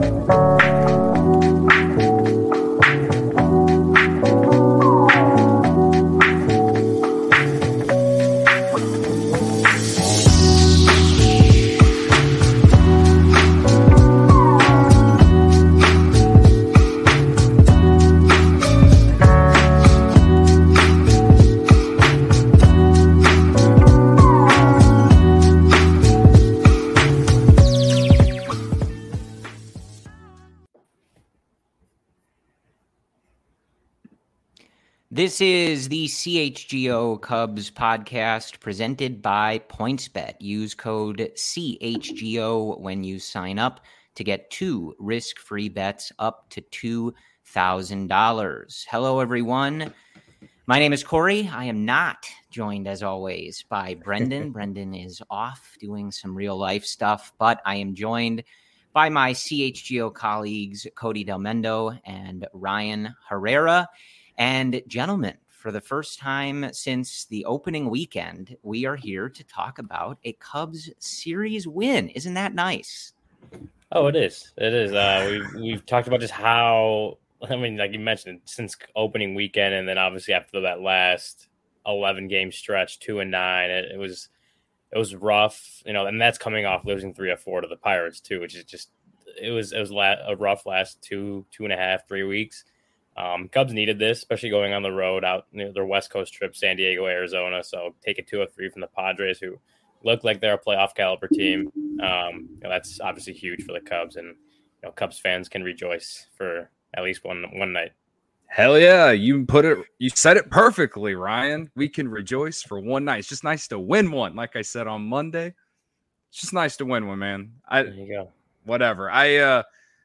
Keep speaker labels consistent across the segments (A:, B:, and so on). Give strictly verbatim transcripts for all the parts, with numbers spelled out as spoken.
A: This is the C H G O Cubs podcast presented by PointsBet. Use code C H G O when you sign up to get two risk-free bets up to two thousand dollars. Hello, everyone. My name is Corey. I am not joined, as always, by Brendan. Brendan is off doing some real-life stuff, but I am joined by my C H G O colleagues, Cody Del Mendo and Ryan Herrera. And gentlemen, for the first time since the opening weekend, we are here to talk about a Cubs series win. Isn't that nice?
B: Oh, it is. It is. Uh, we've, we've talked about just how, I mean, like you mentioned, since opening weekend, and then obviously after that last eleven game stretch, two and nine, it, it was it was rough, you know, and that's coming off losing three or four to the Pirates too, which is just, it was, it was a rough last two, two and a half, three weeks. Um, Cubs needed this, especially going on the road out you know, their West Coast trip, San Diego, Arizona. So taking two or three from the Padres, who look like they're a playoff caliber team. Um, you know, that's obviously huge for the Cubs, and you know, Cubs fans can rejoice for at least one one night.
C: Hell yeah, you put it. You said it perfectly, Ryan. We can rejoice for one night. It's just nice to win one. Like I said on Monday, it's just nice to win one, man. I
B: there you go.
C: Whatever. I, uh,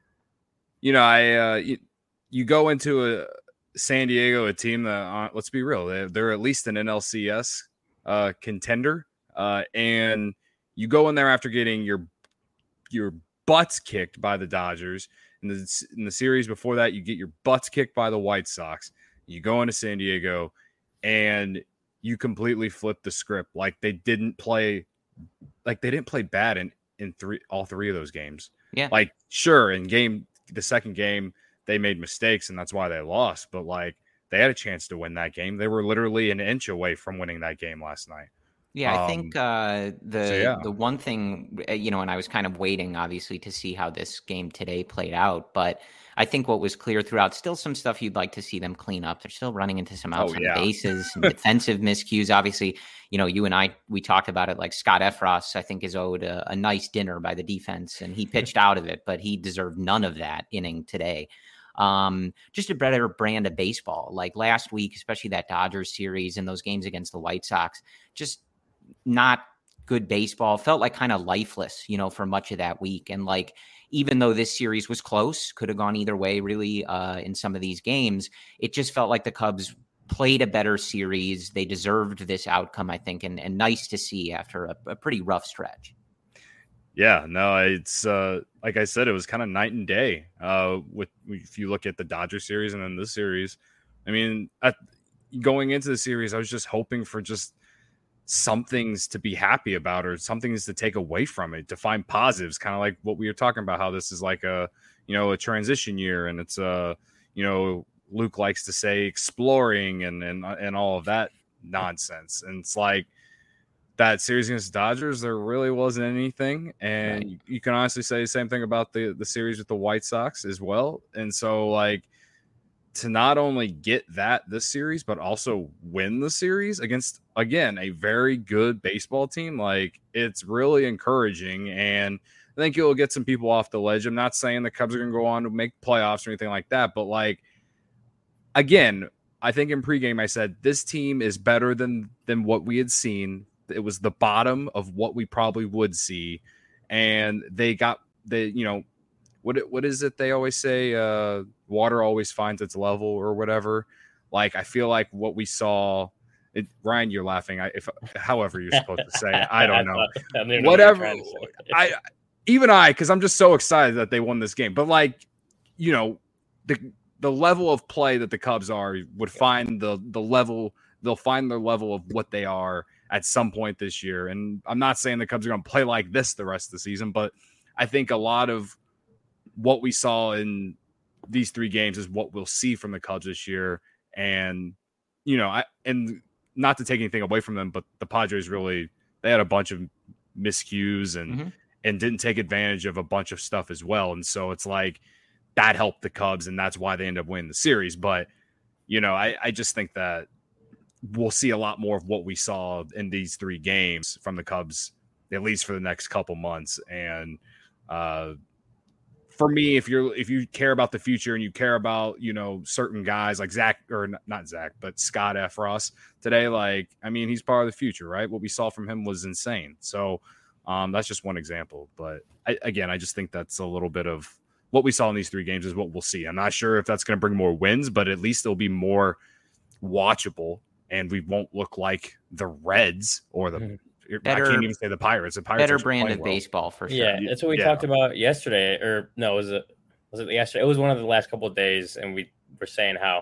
C: you know, I. Uh, you, You go into a San Diego, a team that, uh, let's be real, they're, they're at least an N L C S uh, contender, uh, and you go in there after getting your your butts kicked by the Dodgers. In the, in the series before that, you get your butts kicked by the White Sox. You go into San Diego, and you completely flip the script. Like they didn't play, like they didn't play bad in in three all three of those games.
A: Yeah,
C: like sure, in game the second game, they made mistakes, and that's why they lost. But, like, they had a chance to win that game. They were literally an inch away from winning that game last night.
A: Yeah, I
C: um,
A: think uh, the
C: so yeah.
A: the one thing, you know, and I was kind of waiting, obviously, to see how this game today played out. But I think what was clear throughout, still some stuff you'd like to see them clean up. They're still running into some outs
C: oh,
A: on
C: yeah.
A: the bases, some defensive miscues. Obviously, you know, you and I, we talked about it, like Scott Effross, I think, is owed a, a nice dinner by the defense, and he pitched out of it, but he deserved none of that inning today. Um, just a better brand of baseball. Like last week, especially that Dodgers series and those games against the White Sox, just not good baseball. Felt like kind of lifeless, you know, for much of that week. And like, even though this series was close, could have gone either way really uh, in some of these games, it just felt like the Cubs played a better series. They deserved this outcome, I think, and, and nice to see after a, a pretty rough stretch.
C: Yeah, no, it's uh, like I said, it was kind of night and day. Uh, with if you look at the Dodger series and then this series, I mean, at, going into the series, I was just hoping for just some things to be happy about or some things to take away from it, to find positives. Kind of like what we were talking about, how this is like a you know a transition year, and it's a you know Luke likes to say exploring and and and all of that nonsense, and it's like. That series against the Dodgers, there really wasn't anything. And right. you can honestly say the same thing about the, the series with the White Sox as well. And so, like, to not only get that this series, but also win the series against, again, a very good baseball team, like, it's really encouraging. And I think it'll get some people off the ledge. I'm not saying the Cubs are going to go on to make playoffs or anything like that. But, like, again, I think in pregame I said this team is better than than what we had seen. It was the bottom of what we probably would see. And they got the, you know, what what is it they always say? Uh, water always finds its level or whatever. Like, I feel like what we saw, it, Ryan, you're laughing. I, if however you're supposed to say it, I don't know. I know whatever. I even I, because I'm just so excited that they won this game. But like, you know, the the level of play that the Cubs are would find the the level. They'll find their level of what they are at some point this year. And I'm not saying the Cubs are going to play like this the rest of the season, but I think a lot of what we saw in these three games is what we'll see from the Cubs this year. And, you know, I, and not to take anything away from them, but the Padres really, they had a bunch of miscues and, mm-hmm. and didn't take advantage of a bunch of stuff as well. And so it's like that helped the Cubs, and that's why they end up winning the series. But, you know, I, I just think that we'll see a lot more of what we saw in these three games from the Cubs, at least for the next couple months. And, uh, for me, if you're if you care about the future and you care about, you know, certain guys like Zach, or not Zach, but Scott Effross today, like, I mean, he's part of the future, right? What we saw from him was insane. So um, that's just one example. But I, again, I just think that's a little bit of what we saw in these three games is what we'll see. I'm not sure if that's going to bring more wins, but at least it'll be more watchable, and we won't look like the Reds or the mm-hmm. Better, I can't even say the Pirates. The Pirates
A: better brand of well. baseball for sure.
B: Yeah, that's what we yeah. talked about yesterday. Or no, was it was it yesterday? It was one of the last couple of days, and we were saying how,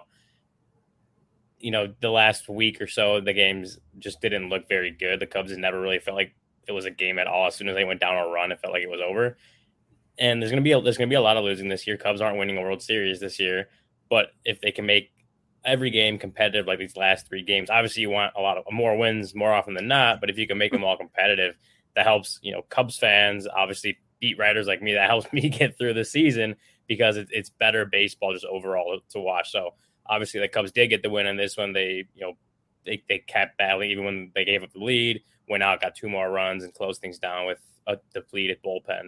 B: you know, the last week or so the games just didn't look very good. The Cubs never really felt like it was a game at all. As soon as they went down a run, it felt like it was over. And there's gonna be a, there's gonna be a lot of losing this year. Cubs aren't winning a World Series this year, but if they can make every game competitive like these last three games, obviously you want a lot of more wins more often than not, but if you can make them all competitive, that helps, you know, Cubs fans, obviously beat writers like me, that helps me get through the season because it, it's better baseball just overall to watch. So obviously the Cubs did get the win in this one. They, you know, they, they kept battling even when they gave up the lead, went out, got two more runs and closed things down with a depleted bullpen.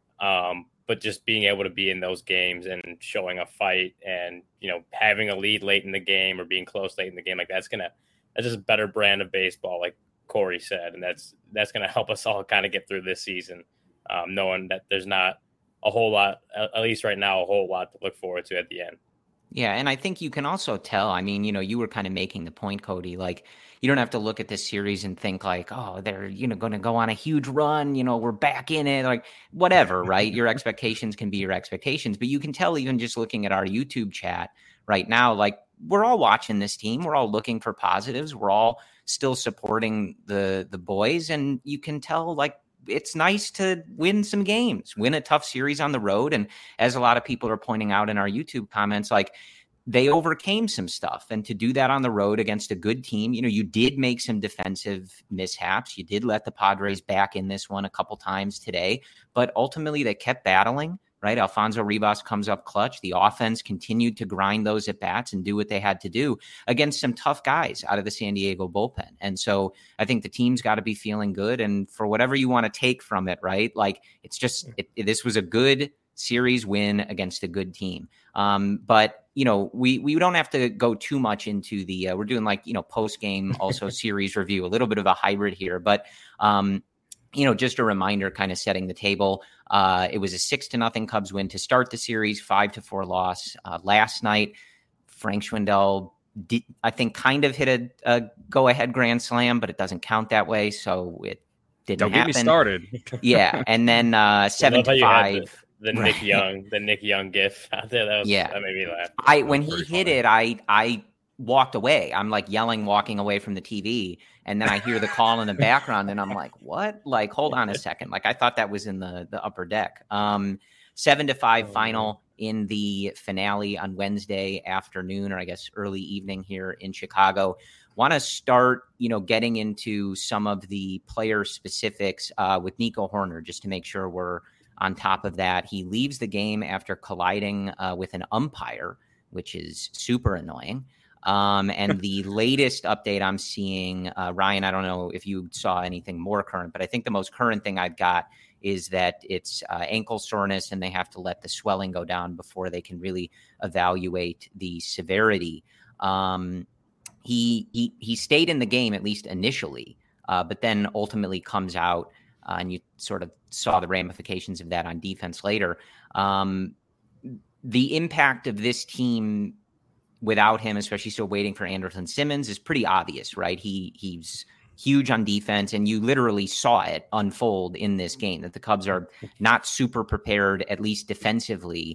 B: Um, but just being able to be in those games and showing a fight and, you know, having a lead late in the game or being close late in the game, like that's going to, that's just a better brand of baseball, like Corey said. And that's, that's going to help us all kind of get through this season, um, knowing that there's not a whole lot, at least right now, a whole lot to look forward to at the end.
A: Yeah, and I think you can also tell, I mean, you know, you were kind of making the point, Cody, like you don't have to look at this series and think like, oh, they're, you know, going to go on a huge run, you know, we're back in it, like whatever, right? Your expectations can be your expectations, but you can tell even just looking at our YouTube chat right now, like we're all watching this team, we're all looking for positives, we're all still supporting the the boys, and you can tell like it's nice to win some games, win a tough series on the road. And as a lot of people are pointing out in our YouTube comments, like they overcame some stuff, and to do that on the road against a good team, you know, you did make some defensive mishaps. You did let the Padres back in this one a couple times today, but ultimately they kept battling, right? Alfonso Rivas comes up clutch. The offense continued to grind those at bats and do what they had to do against some tough guys out of the San Diego bullpen. And so I think the team's got to be feeling good. And for whatever you want to take from it, right? Like it's just, it, it, this was a good series win against a good team. Um, but you know, we, we don't have to go too much into the, uh, we're doing like, you know, post-game also series review, a little bit of a hybrid here, but, um, you know, just a reminder, kind of setting the table. Uh, it was a six to nothing Cubs win to start the series, five to four loss. Uh, last night, Frank Schwindel did, I think, kind of hit a, a go ahead grand slam, but it doesn't count that way. So it didn't
C: Don't
A: happen.
C: Get me started.
A: Yeah. And then uh, seven to five.
B: The, the right. Nick Young, the Nick Young gif out there. That was,
A: yeah.
B: That made me laugh.
A: I, when he hit funny. it, I, I, walked away. I'm like yelling, walking away from the T V. And then I hear the call in the background and I'm like, what? Like, hold on a second. Like I thought that was in the, the upper deck. Um, seven to five oh, final in the finale on Wednesday afternoon, or I guess early evening here in Chicago. Want to start, you know, getting into some of the player specifics uh, with Nico Hoerner, just to make sure we're on top of that. He leaves the game after colliding uh, with an umpire, which is super annoying. Um, and the latest update I'm seeing, uh, Ryan, I don't know if you saw anything more current, but I think the most current thing I've got is that it's uh, ankle soreness and they have to let the swelling go down before they can really evaluate the severity. Um, he, he, he stayed in the game, at least initially, uh, but then ultimately comes out uh, and you sort of saw the ramifications of that on defense later. Um, the impact of this team without him, especially still waiting for Anderson Simmons, is pretty obvious, right? He he's huge on defense, and you literally saw it unfold in this game, that the Cubs are not super prepared, at least defensively,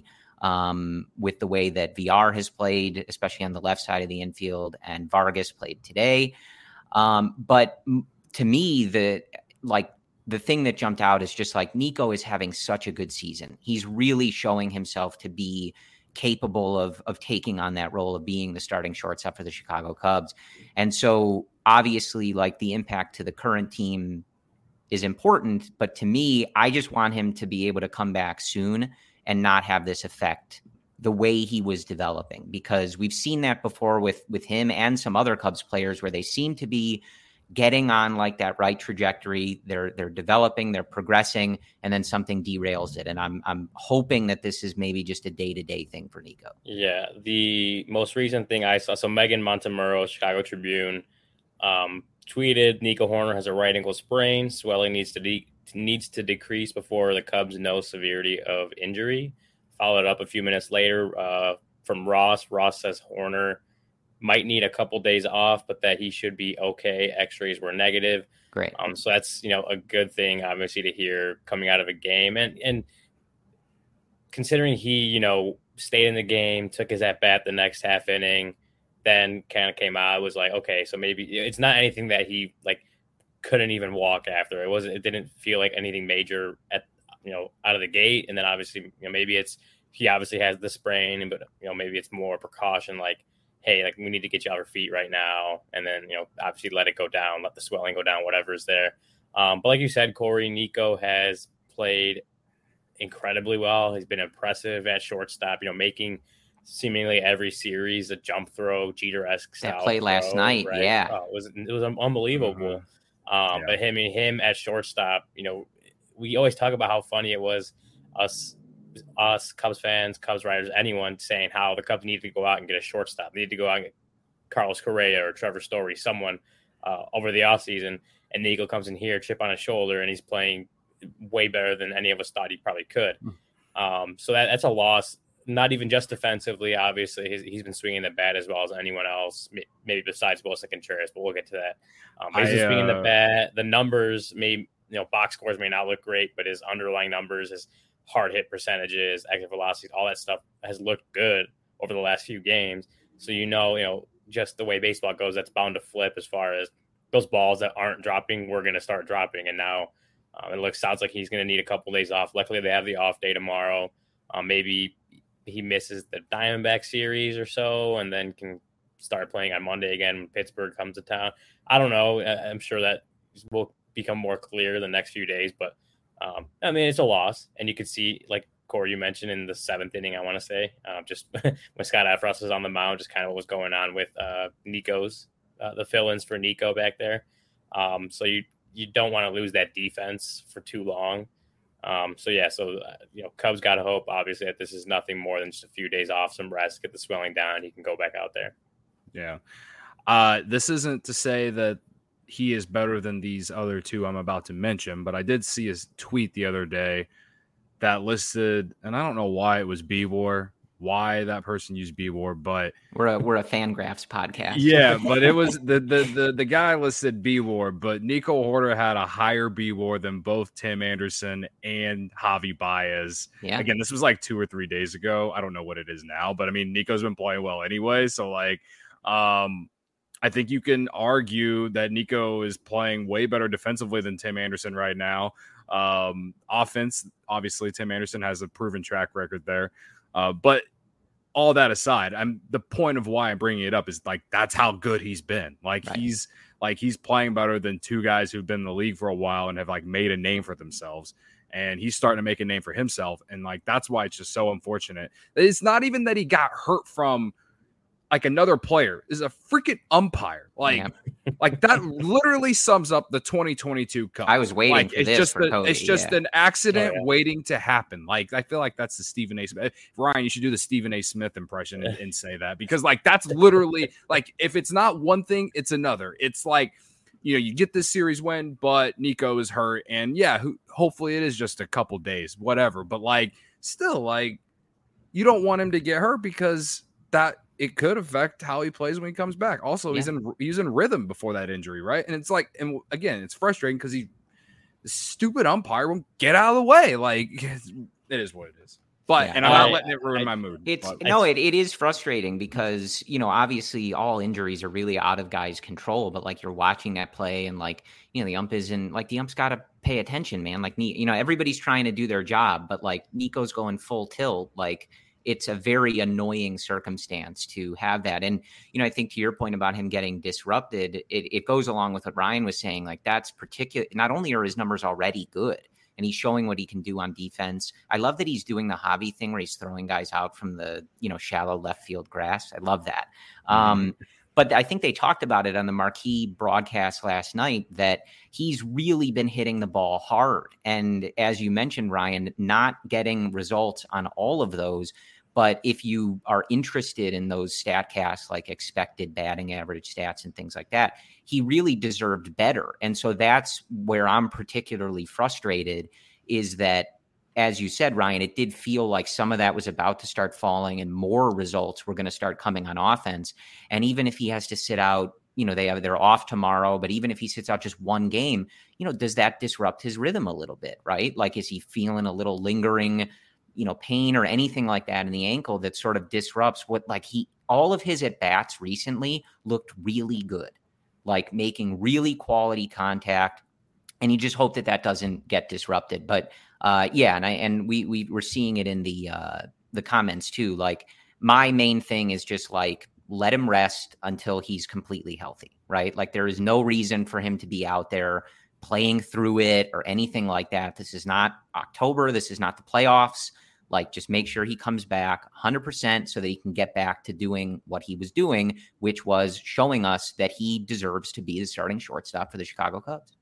A: um, with the way that V R has played, especially on the left side of the infield, and Vargas played today. Um, but to me, the like the thing that jumped out is just like Nico is having such a good season. He's really showing himself to be capable of of taking on that role of being the starting shortstop for the Chicago Cubs. And so obviously like the impact to the current team is important, but to me, I just want him to be able to come back soon and not have this affect the way he was developing, because we've seen that before with with him and some other Cubs players where they seem to be getting on like that right trajectory. They're they're developing, they're progressing, and then something derails it. And I'm I'm hoping that this is maybe just a day-to-day thing for Nico.
B: Yeah, the most recent thing I saw, so Megan Montemurro, Chicago Tribune, um, tweeted Nico Hoerner has a right ankle sprain. Swelling needs to de- needs to decrease before the Cubs know severity of injury. Followed up a few minutes later uh, from Ross. Ross says Hoerner might need a couple days off, but that he should be okay. X-rays were negative.
A: Great.
B: Um, so that's, you know, a good thing, obviously, to hear coming out of a game. And and considering he, you know, stayed in the game, took his at-bat the next half inning, then kind of came out, it was like, okay, so maybe it's not anything that he, like, couldn't even walk after. It wasn't, it didn't feel like anything major at, you know, out of the gate. And then obviously, you know, maybe it's, he obviously has the sprain, but, you know, maybe it's more precaution, like, hey, like we need to get you off your feet right now. And then, you know, obviously let it go down, let the swelling go down, whatever is there. Um, but like you said, Corey, Nico has played incredibly well. He's been impressive at shortstop, you know, making seemingly every series a jump throw, Jeter-esque style.
A: That play last
B: throw,
A: night.
B: right?
A: Yeah.
B: Oh, it was, it was unbelievable. Mm-hmm. Um, yeah. But him, him at shortstop, you know, we always talk about how funny it was us, us Cubs fans, Cubs writers, anyone saying how the Cubs need to go out and get a shortstop. They need to go out and get Carlos Correa or Trevor Story, someone uh, over the offseason. And Nico comes in here, chip on his shoulder, and he's playing way better than any of us thought he probably could. Um, so that, that's a loss, not even just defensively. Obviously, he's, he's been swinging the bat as well as anyone else, maybe besides Wilson Contreras, but we'll get to that. Um, but he's I, uh... swinging the bat. The numbers may, you know, box scores may not look great, but his underlying numbers, his hard hit percentages, exit velocities, all that stuff has looked good over the last few games. So, you know, you know, just the way baseball goes, that's bound to flip as far as those balls that aren't dropping, we're going to start dropping. And now um, it looks, sounds like he's going to need a couple days off. Luckily, they have the off day tomorrow. Um, maybe he misses the Diamondback series or so, and then can start playing on Monday again when Pittsburgh comes to town. I don't know. I'm sure that will become more clear the next few days, but Um, I mean, it's a loss, and you could see, like Corey, you mentioned in the seventh inning, I want to say, uh, just when Scott Effross was on the mound, just kind of what was going on with uh, Nico's, uh, the fill-ins for Nico back there. Um, so you you don't want to lose that defense for too long. Um, so yeah, so uh, you know, Cubs got to hope, obviously, that this is nothing more than just a few days off, some rest, get the swelling down, he can go back out there.
C: Yeah, uh, this isn't to say that he is better than these other two I'm about to mention, but I did see his tweet the other day that listed, and I don't know why it was B-War, why that person used B-War, but
A: we're a we're a Fangraphs podcast.
C: Yeah, but it was the the the, the guy listed B-War, but Nico Hoerner had a higher B-War than both Tim Anderson and Javi Baez.
A: Yeah.
C: Again, this was like two or three days ago. I don't know what it is now, but I mean, Nico's been playing well anyway, so like, um. I think you can argue that Nico is playing way better defensively than Tim Anderson right now. Um, offense, obviously, Tim Anderson has a proven track record there. Uh, but all that aside, I'm the point of why I'm bringing it up is like that's how good he's been. Like right. he's like he's playing better than two guys who've been in the league for a while and have like made a name for themselves. And he's starting to make a name for himself. And like that's why it's just so unfortunate. It's not even that he got hurt from like another player, is a freaking umpire. Like, yeah. like that literally sums up the twenty twenty-two Cup.
A: I was waiting
C: like,
A: for
C: it's
A: this
C: just
A: for
C: a,
A: Cody,
C: It's just
A: yeah.
C: an accident
B: oh, yeah.
C: waiting to happen. Like, I feel like that's the Stephen A. Smith. Ryan, you should do the Stephen A. Smith impression and, and say that, because like that's literally like if it's not one thing, it's another. It's like, you know, you get this series win, but Nico is hurt, and yeah, ho- hopefully it is just a couple days, whatever. But like, still, like, you don't want him to get hurt because that. It could affect how he plays when he comes back. Also, yeah. he's in he's in rhythm before that injury, right? And it's like, and again, it's frustrating because he, the stupid umpire won't get out of the way. Like, it is what it is. But
A: Yeah.
C: and I'm not
B: I-
C: letting it ruin
B: I-
C: my mood.
A: It's
C: but-
A: no, it, it is frustrating because, you know, obviously all injuries are really out of guys' control, but like you're watching that play and like, you know, the ump isn't like the ump's got to pay attention, man. Like, you know, everybody's trying to do their job, but like Nico's going full tilt. Like it's a very annoying circumstance to have that. And, you know, I think to your point about him getting disrupted, it, it goes along with what Ryan was saying. Like that's particular. Not only are his numbers already good, and he's showing what he can do on defense. I love that he's doing the Javi thing where he's throwing guys out from the, you know, shallow left field grass. I love that. Mm-hmm. Um, but I think they talked about it on the marquee broadcast last night that he's really been hitting the ball hard. And as you mentioned, Ryan, not getting results on all of those. But if you are interested in those StatCasts, like expected batting average stats and things like that, he really deserved better. And so that's where I'm particularly frustrated is that, as you said, Ryan, it did feel like some of that was about to start falling and more results were going to start coming on offense. And even if he has to sit out, you know, they have, they're off tomorrow, but even if he sits out just one game, you know, does that disrupt his rhythm a little bit, right? Like, is he feeling a little lingering, you know, pain or anything like that in the ankle that sort of disrupts what, like he, all of his at bats recently looked really good, like making really quality contact. And you just hope that that doesn't get disrupted. But uh, yeah, and I, and we, we were seeing it in the, uh, the comments too. Like my main thing is just like, let him rest until he's completely healthy, right? Like there is no reason for him to be out there playing through it or anything like that. This is not October. This is not the playoffs. Like, just make sure he comes back one hundred percent so that he can get back to doing what he was doing, which was showing us that he deserves to be the starting shortstop for the Chicago Cubs.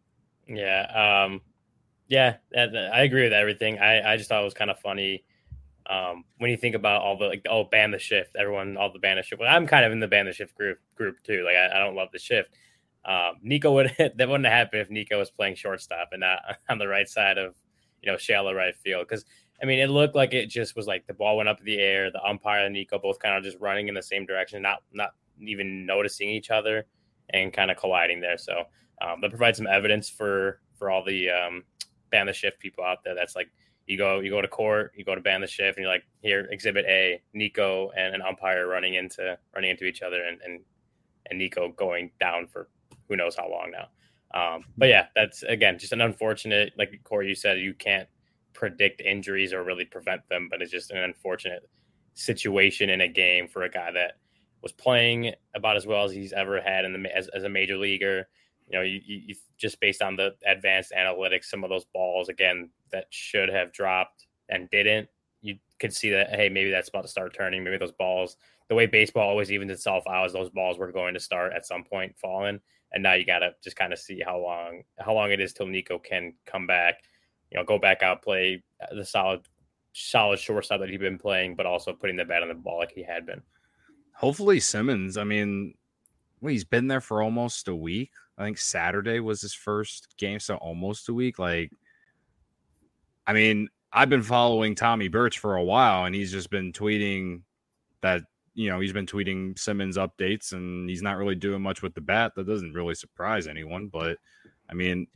B: Yeah. Um, yeah, I agree with everything. I, I just thought it was kind of funny um, when you think about all the, like, oh, ban the shift. Everyone, all the ban the shift. Well, I'm kind of in the ban the shift group, group too. Like, I, I don't love the shift. Um, Nico would, that wouldn't have happened if Nico was playing shortstop and not on the right side of, you know, shallow right field. Because I mean, it looked like it just was like the ball went up in the air. The umpire and Nico both kind of just running in the same direction, not not even noticing each other and kind of colliding there. So um, that provides some evidence for for all the um, ban the shift people out there. That's like you go you go to court, you go to ban the shift, and you're like, here, Exhibit A, Nico and an umpire running into running into each other, and and, and Nico going down for who knows how long now. Um, but yeah, that's again just an unfortunate, like Corey, you said, you can't predict injuries or really prevent them, but it's just an unfortunate situation in a game for a guy that was playing about as well as he's ever had in the as, as a major leaguer. You know, you, you just based on the advanced analytics, some of those balls again that should have dropped and didn't, you could see that, hey, maybe that's about to start turning. Maybe those balls, the way baseball always evens itself out, is those balls were going to start at some point falling, and now you got to just kind of see how long how long it is till Nico can come back. You know, go back out, play the solid, solid shortstop that he'd been playing, but also putting the bat on the ball like he had been.
C: Hopefully Simmons, I mean, well, he's been there for almost a week. I think Saturday was his first game, so almost a week. Like, I mean, I've been following Tommy Birch for a while, and he's just been tweeting that, you know, he's been tweeting Simmons updates, and he's not really doing much with the bat. That doesn't really surprise anyone, but I mean,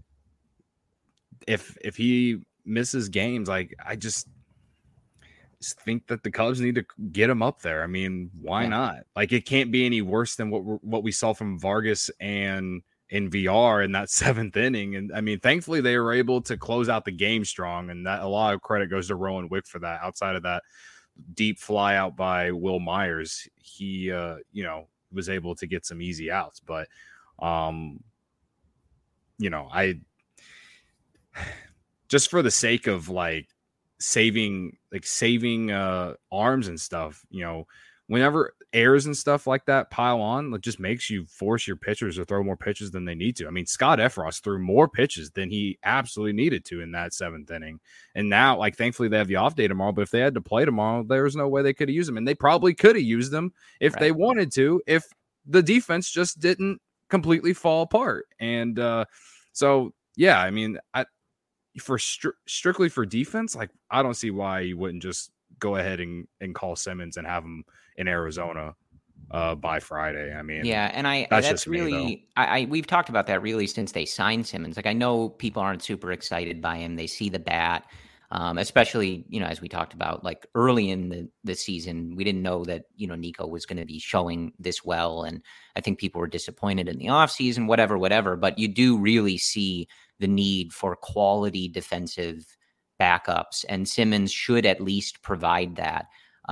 C: if if he misses games, like I just, just think that the Cubs need to get him up there. I mean, why yeah. not? Like, it can't be any worse than what what we saw from Vargas and in V R in that seventh inning. And I mean, thankfully they were able to close out the game strong, and that a lot of credit goes to Rowan Wick for that. Outside of that deep fly out by Will Myers, he uh, you know, was able to get some easy outs. But um, you know, I. Just for the sake of like saving, like saving uh, arms and stuff, you know, whenever errors and stuff like that pile on, it just makes you force your pitchers to throw more pitches than they need to. I mean, Scott Effross threw more pitches than he absolutely needed to in that seventh inning. And now, like, thankfully they have the off day tomorrow, but if they had to play tomorrow, there was no way they could have used them. And they probably could have used them if right. they wanted to, if the defense just didn't completely fall apart. And uh, so, yeah, I mean, I, for stri- strictly for defense, like, I don't see why you wouldn't just go ahead and, and call Simmons and have him in Arizona uh, by Friday. I mean,
A: yeah, and I that's, that's really me, I, I we've talked about that really since they signed Simmons. Like, I know people aren't super excited by him. They see the bat. Um, especially, you know, as we talked about, like early in the, the season, we didn't know that, you know, Nico was going to be showing this well. And I think people were disappointed in the offseason, whatever, whatever. But you do really see the need for quality defensive backups, and Simmons should at least provide that.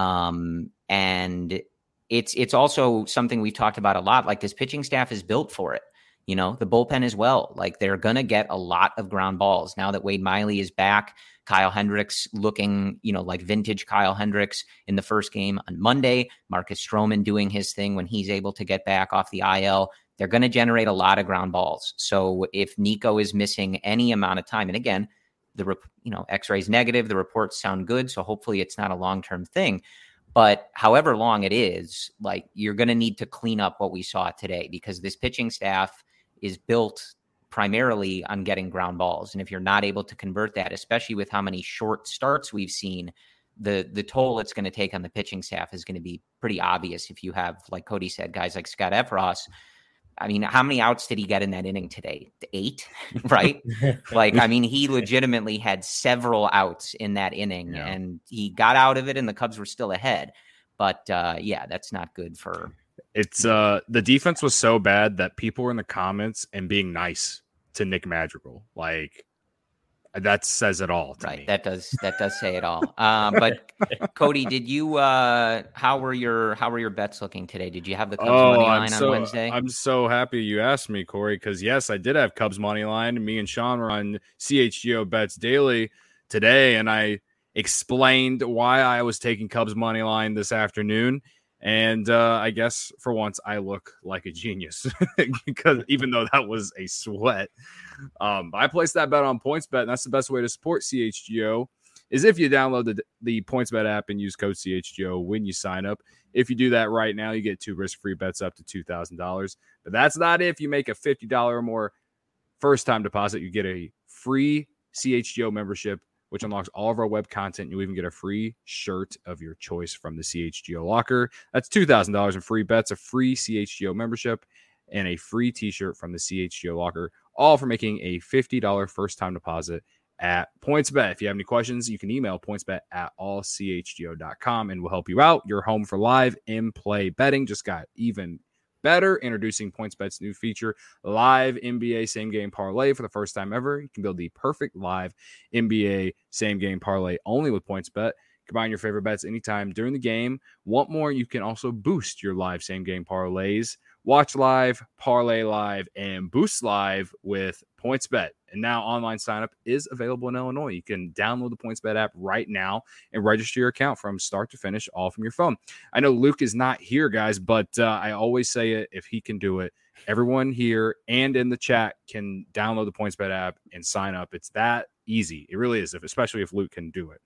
A: Um, and it's it's also something we've talked about a lot. Like, this pitching staff is built for it. You know, the bullpen as well. Like, they're going to get a lot of ground balls now that Wade Miley is back. Kyle Hendricks looking, you know, like vintage Kyle Hendricks in the first game on Monday. Marcus Stroman doing his thing when he's able to get back off the I L. They're going to generate a lot of ground balls. So if Nico is missing any amount of time, and again, the you know X-rays negative, the reports sound good, so hopefully it's not a long-term thing. But however long it is, like, you're going to need to clean up what we saw today, because this pitching staff is built primarily on getting ground balls. And if you're not able to convert that, especially with how many short starts we've seen, the the toll it's going to take on the pitching staff is going to be pretty obvious. If you have, like Cody said, guys like Scott Effross, I mean, how many outs did he get in that inning today? Eight, right? Like, I mean, he legitimately had several outs in that inning, yeah. and he got out of it, and the Cubs were still ahead. But uh, yeah, that's not good for.
C: It's uh, the defense was so bad that people were in the comments and being nice to Nick Madrigal. Like, that says it all to
A: right.
C: me.
A: That does that does say it all. Um, but Cody, did you? Uh, how were your How were your bets looking today? Did you have the Cubs
C: oh,
A: money line
C: so,
A: on Wednesday?
C: I'm so happy you asked me, Corey, because yes, I did have Cubs money line. Me and Sean were on C H G O Bets Daily today, and I explained why I was taking Cubs money line this afternoon. And uh, I guess for once I look like a genius, because even though that was a sweat, um, I placed that bet on PointsBet, and that's the best way to support C H G O is if you download the, the PointsBet app and use code C H G O when you sign up. If you do that right now, you get two risk-free bets up to two thousand dollars. But that's not if you make a fifty dollars or more first-time deposit. You get a free C H G O membership, which unlocks all of our web content. You'll even get a free shirt of your choice from the C H G O locker. That's two thousand dollars in free bets, a free C H G O membership, and a free t-shirt from the C H G O locker, all for making a fifty dollars first-time deposit at PointsBet. If you have any questions, you can email pointsbet at all c h g o dot com, and we'll help you out. You're home for live in-play betting. Just got even better. Introducing PointsBet's new feature, live N B A same-game parlay. For the first time ever, you can build the perfect live N B A same-game parlay only with PointsBet. Combine your favorite bets anytime during the game. Want more? You can also boost your live same-game parlays. Watch live, parlay live, and boost live with PointsBet. And now online signup is available in Illinois. You can download the PointsBet app right now and register your account from start to finish, all from your phone. I know Luke is not here, guys, but uh, I always say it, if he can do it, everyone here and in the chat can download the PointsBet app and sign up. It's that easy. It really is, if, especially if Luke can do it.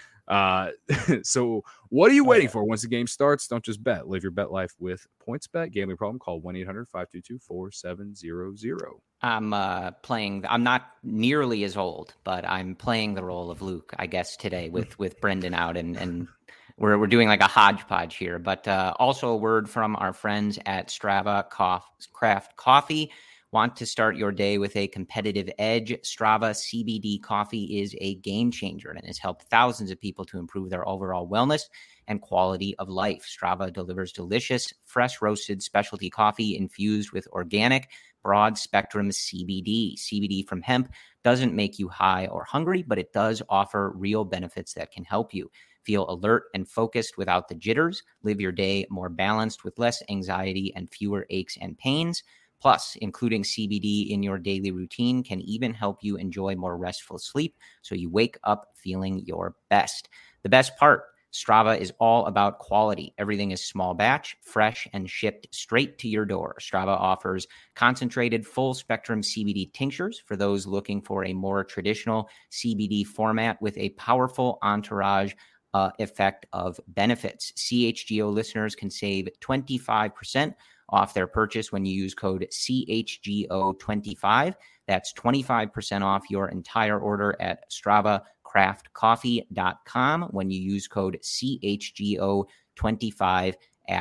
C: Uh, so what are you waiting for? Once the game starts, don't just bet. Live your bet life with PointsBet. Gambling problem? Call one eight hundred five two two four seven zero zero.
A: I'm uh, playing. I'm not nearly as old, but I'm playing the role of Luke, I guess, today with with Brendan out, and and we're we're doing like a hodgepodge here. But uh, also a word from our friends at Strava Cof- Craft Coffee. Want to start your day with a competitive edge? Strava C B D coffee is a game changer and has helped thousands of people to improve their overall wellness and quality of life. Strava delivers delicious, fresh roasted specialty coffee infused with organic, broad spectrum C B D. C B D from hemp doesn't make you high or hungry, but it does offer real benefits that can help you feel alert and focused without the jitters. Live your day more balanced with less anxiety and fewer aches and pains. Plus, including C B D in your daily routine can even help you enjoy more restful sleep so you wake up feeling your best. The best part, Strava is all about quality. Everything is small batch, fresh, and shipped straight to your door. Strava offers concentrated full-spectrum C B D tinctures for those looking for a more traditional C B D format with a powerful entourage uh, effect of benefits. C H G O listeners can save twenty-five percent off their purchase when you use code C H G O twenty-five. That's twenty-five percent off your entire order at strava craft coffee dot com when you use code C H G O twenty-five at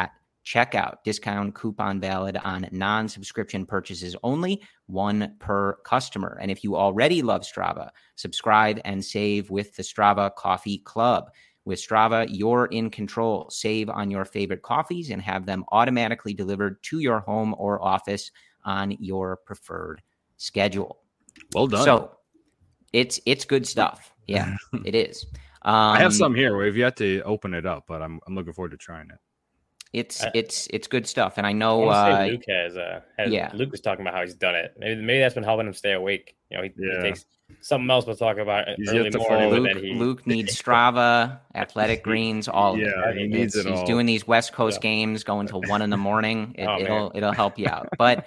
A: checkout. Discount coupon valid on non-subscription purchases only, one per customer. And if you already love Strava, subscribe and save with the Strava Coffee Club. With Strava, you're in control. Save on your favorite coffees and have them automatically delivered to your home or office on your preferred schedule.
C: Well done.
A: So it's it's good stuff. Yeah, it is. Um,
C: I have some here. We've yet to open it up, but I'm I'm looking forward to trying it.
A: It's it's it's good stuff, and I know
B: I
A: uh,
B: Luke has, uh, has.
A: Yeah,
B: Luke was talking about how he's done it. Maybe maybe that's been helping him stay awake. You know, he,
C: yeah.
B: he takes something else we'll talk about
C: He's
B: early morning.
A: Luke,
B: But then he...
A: Luke needs Strava, Athletic Greens, all
C: yeah,
A: of it.
C: he needs
A: it's,
C: it
A: he's
C: all.
A: doing these West Coast
B: Yeah.
A: games, going till one in the morning. It,
B: Oh,
A: it'll it'll help you out. But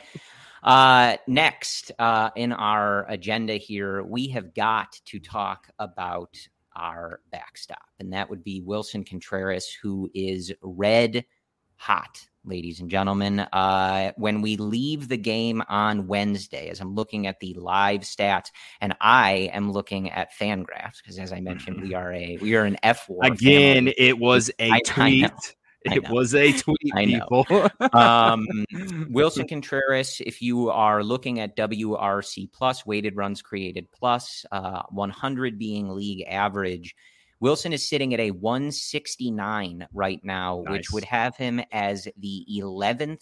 A: uh, next uh, in our agenda here, we have got to talk about our backstop, and that would be Willson Contreras, who is red hot, ladies and gentlemen. Uh, when we leave the game on Wednesday, as I'm looking at the live stats, and I am looking at Fangraphs, because as I mentioned, we are a we are an F war
C: Again,
A: family.
C: it was a
A: I- I
C: tweet.
A: know. I
C: It
A: know.
C: was a tweet,
A: I know.
C: people.
A: um, Willson Contreras, if you are looking at W R C plus, weighted runs created plus, uh, one hundred being league average, Willson is sitting at a one sixty-nine right now,
C: Nice.
A: which would have him as the eleventh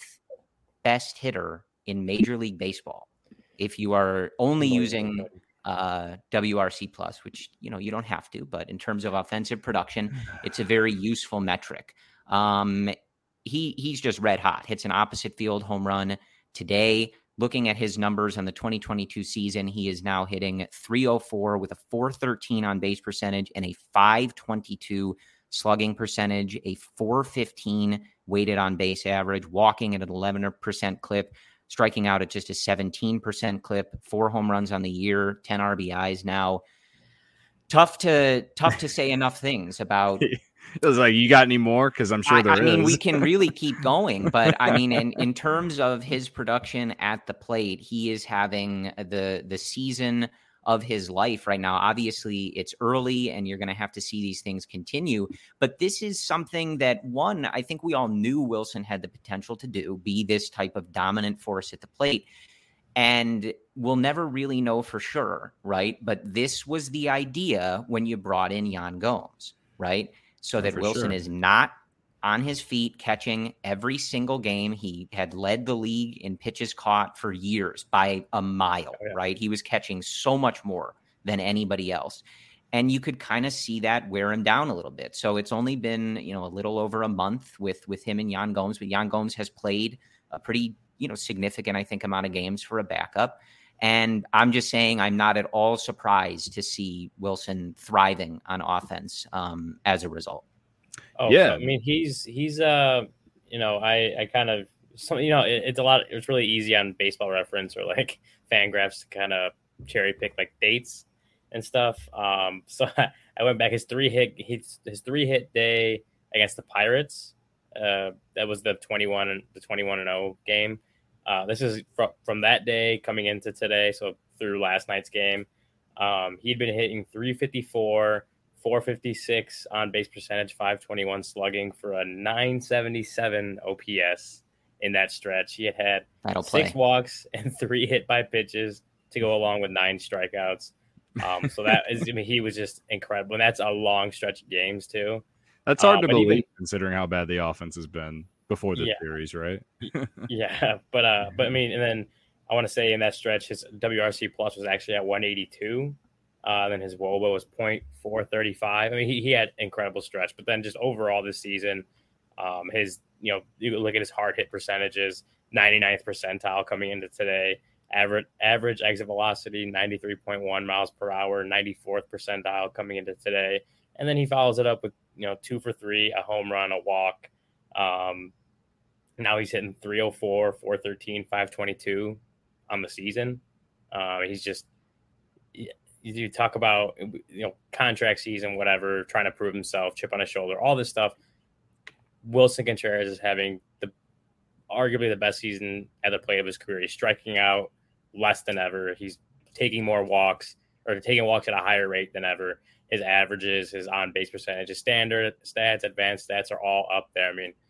A: best hitter in Major League Baseball. If you are only using uh, W R C plus, which, you know, you don't have to, but in terms of offensive production, it's a very useful metric. Um, he he's just red hot. Hits an opposite field home run today. Looking at his numbers on the twenty twenty-two season, he is now hitting three oh four with a four thirteen on base percentage and a five twenty-two slugging percentage, a four fifteen weighted on base average, walking at an eleven percent clip, striking out at just a seventeen percent clip, four home runs on the year, ten R B Is now. Tough to tough to say enough things about.
C: It was like, you got any more? Because I'm sure
A: I,
C: there
A: I mean,
C: is.
A: we can really keep going, but I mean, in, in terms of his production at the plate, he is having the the season of his life right now. Obviously, it's early, and you're going to have to see these things continue. But this is something that, one, I think we all knew Willson had the potential to do, be this type of dominant force at the plate. And we'll never really know for sure, right? But this was the idea when you brought in Yan Gomes, right? So
C: Oh,
A: that
C: for
A: Willson
C: sure.
A: is not on his feet catching every single game. He had led the league in pitches caught for years by a mile,
B: Oh, yeah.
A: right? He was catching so much more than anybody else. And you could kind of see that wear him down a little bit. So it's only been, you know, a little over a month with with him and Yan Gomes, but Yan Gomes has played a pretty, you know, significant, I think, amount of games for a backup. And I'm just saying I'm not at all surprised to see Willson thriving on offense um, as a result.
B: Oh,
C: Yeah.
B: so, I mean, he's he's uh, you know, I I kind of some you know, it, it's a lot. It's really easy on Baseball Reference or like Fangraphs to kind of cherry pick like dates and stuff. Um, so I, I went back his three hit his his three hit day against the Pirates. Uh, that was the twenty-one and the twenty-one and oh game. Uh, this is from, from that day coming into today, so through last night's game. Um, he'd been hitting three fifty-four, four fifty-six on base percentage, five twenty-one slugging for a nine seventy-seven O P S in that stretch. He had had
A: That'll play.
B: six walks and three hit by pitches to go along with nine strikeouts. Um, so that is, I mean, he was just incredible. And that's a long stretch of games too.
C: That's hard
B: uh,
C: to
B: but
C: believe
B: even-
C: considering how bad the offense has been before the
B: Yeah.
C: series, right?
B: Yeah, but uh, but I mean, and then I want to say in that stretch, his W R C plus was actually at one eighty-two. Uh, then his W O B A was point four thirty-five. I mean, he, he had incredible stretch, but then just overall this season, um, his you know you look at his hard hit percentages, ninety-ninth percentile coming into today. Average average exit velocity ninety-three point one miles per hour, ninety-fourth percentile coming into today, and then he follows it up with you know two for three, a home run, a walk. Um, now he's hitting three oh four, four thirteen, five twenty-two on the season. Uh, he's just, you talk about, you know, contract season, whatever, trying to prove himself, chip on his shoulder, all this stuff. Willson Contreras is having the arguably the best season at the plate of his career. He's striking out less than ever. He's taking more walks or taking walks at a higher rate than ever. His averages, his on base percentage, his standard stats, advanced stats are all up there. I mean,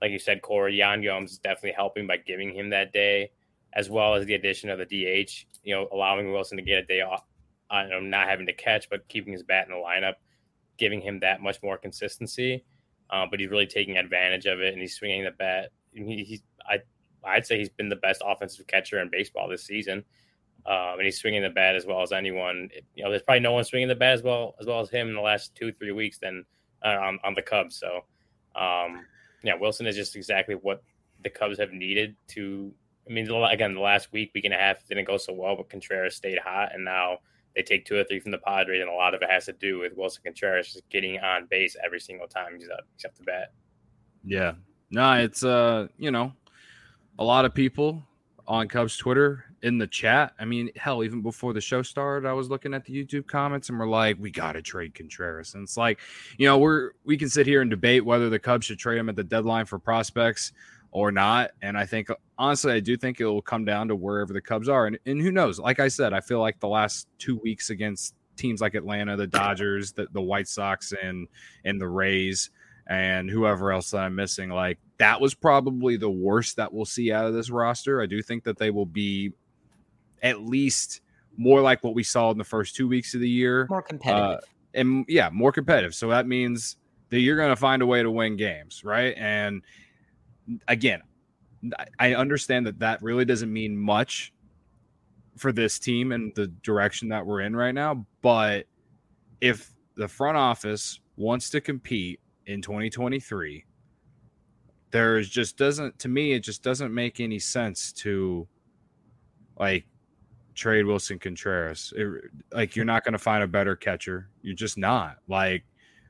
B: like you said, Corey, Yan Gomes is definitely helping by giving him that day, as well as the addition of the D H, you know, allowing Wilson to get a day off, uh, not having to catch, but keeping his bat in the lineup, giving him that much more consistency. Uh, but he's really taking advantage of it, and he's swinging the bat. He, he's, I, I'd say he's been the best offensive catcher in baseball this season. Um, and he's swinging the bat as well as anyone. It, you know, there's probably no one swinging the bat as well as well as him in the last two, three weeks than uh, on, on the Cubs. So, um, yeah, Wilson is just exactly what the Cubs have needed to. I mean, again, the last week, week and a half didn't go so well, but Contreras stayed hot, and now they take two or three from the Padres, and a lot of it has to do with Wilson Contreras just getting on base every single time he's up, he's up the bat.
C: Yeah, no, it's uh, you know, a lot of people on Cubs Twitter in the chat. I mean, hell, even before the show started, I was looking at the YouTube comments and we're like, we got to trade Contreras. And it's like, you know, we're, we can sit here and debate whether the Cubs should trade him at the deadline for prospects or not. And I think, honestly, I do think it will come down to wherever the Cubs are. And, and who knows? Like I said, I feel like the last two weeks against teams like Atlanta, the Dodgers, the, the White Sox, and, and the Rays, and whoever else that I'm missing, like that was probably the worst that we'll see out of this roster. I do think that they will be at least more like what we saw in the first two weeks of the year.
A: More competitive.
C: Uh, and yeah, more competitive. So that means that you're going to find a way to win games, right? And again, I understand that that really doesn't mean much for this team and the direction that we're in right now. But if the front office wants to compete in twenty twenty-three, there's just doesn't, to me, it just doesn't make any sense to like trade Wilson Contreras. It, like you're not going to find a better catcher. You're just not. Like,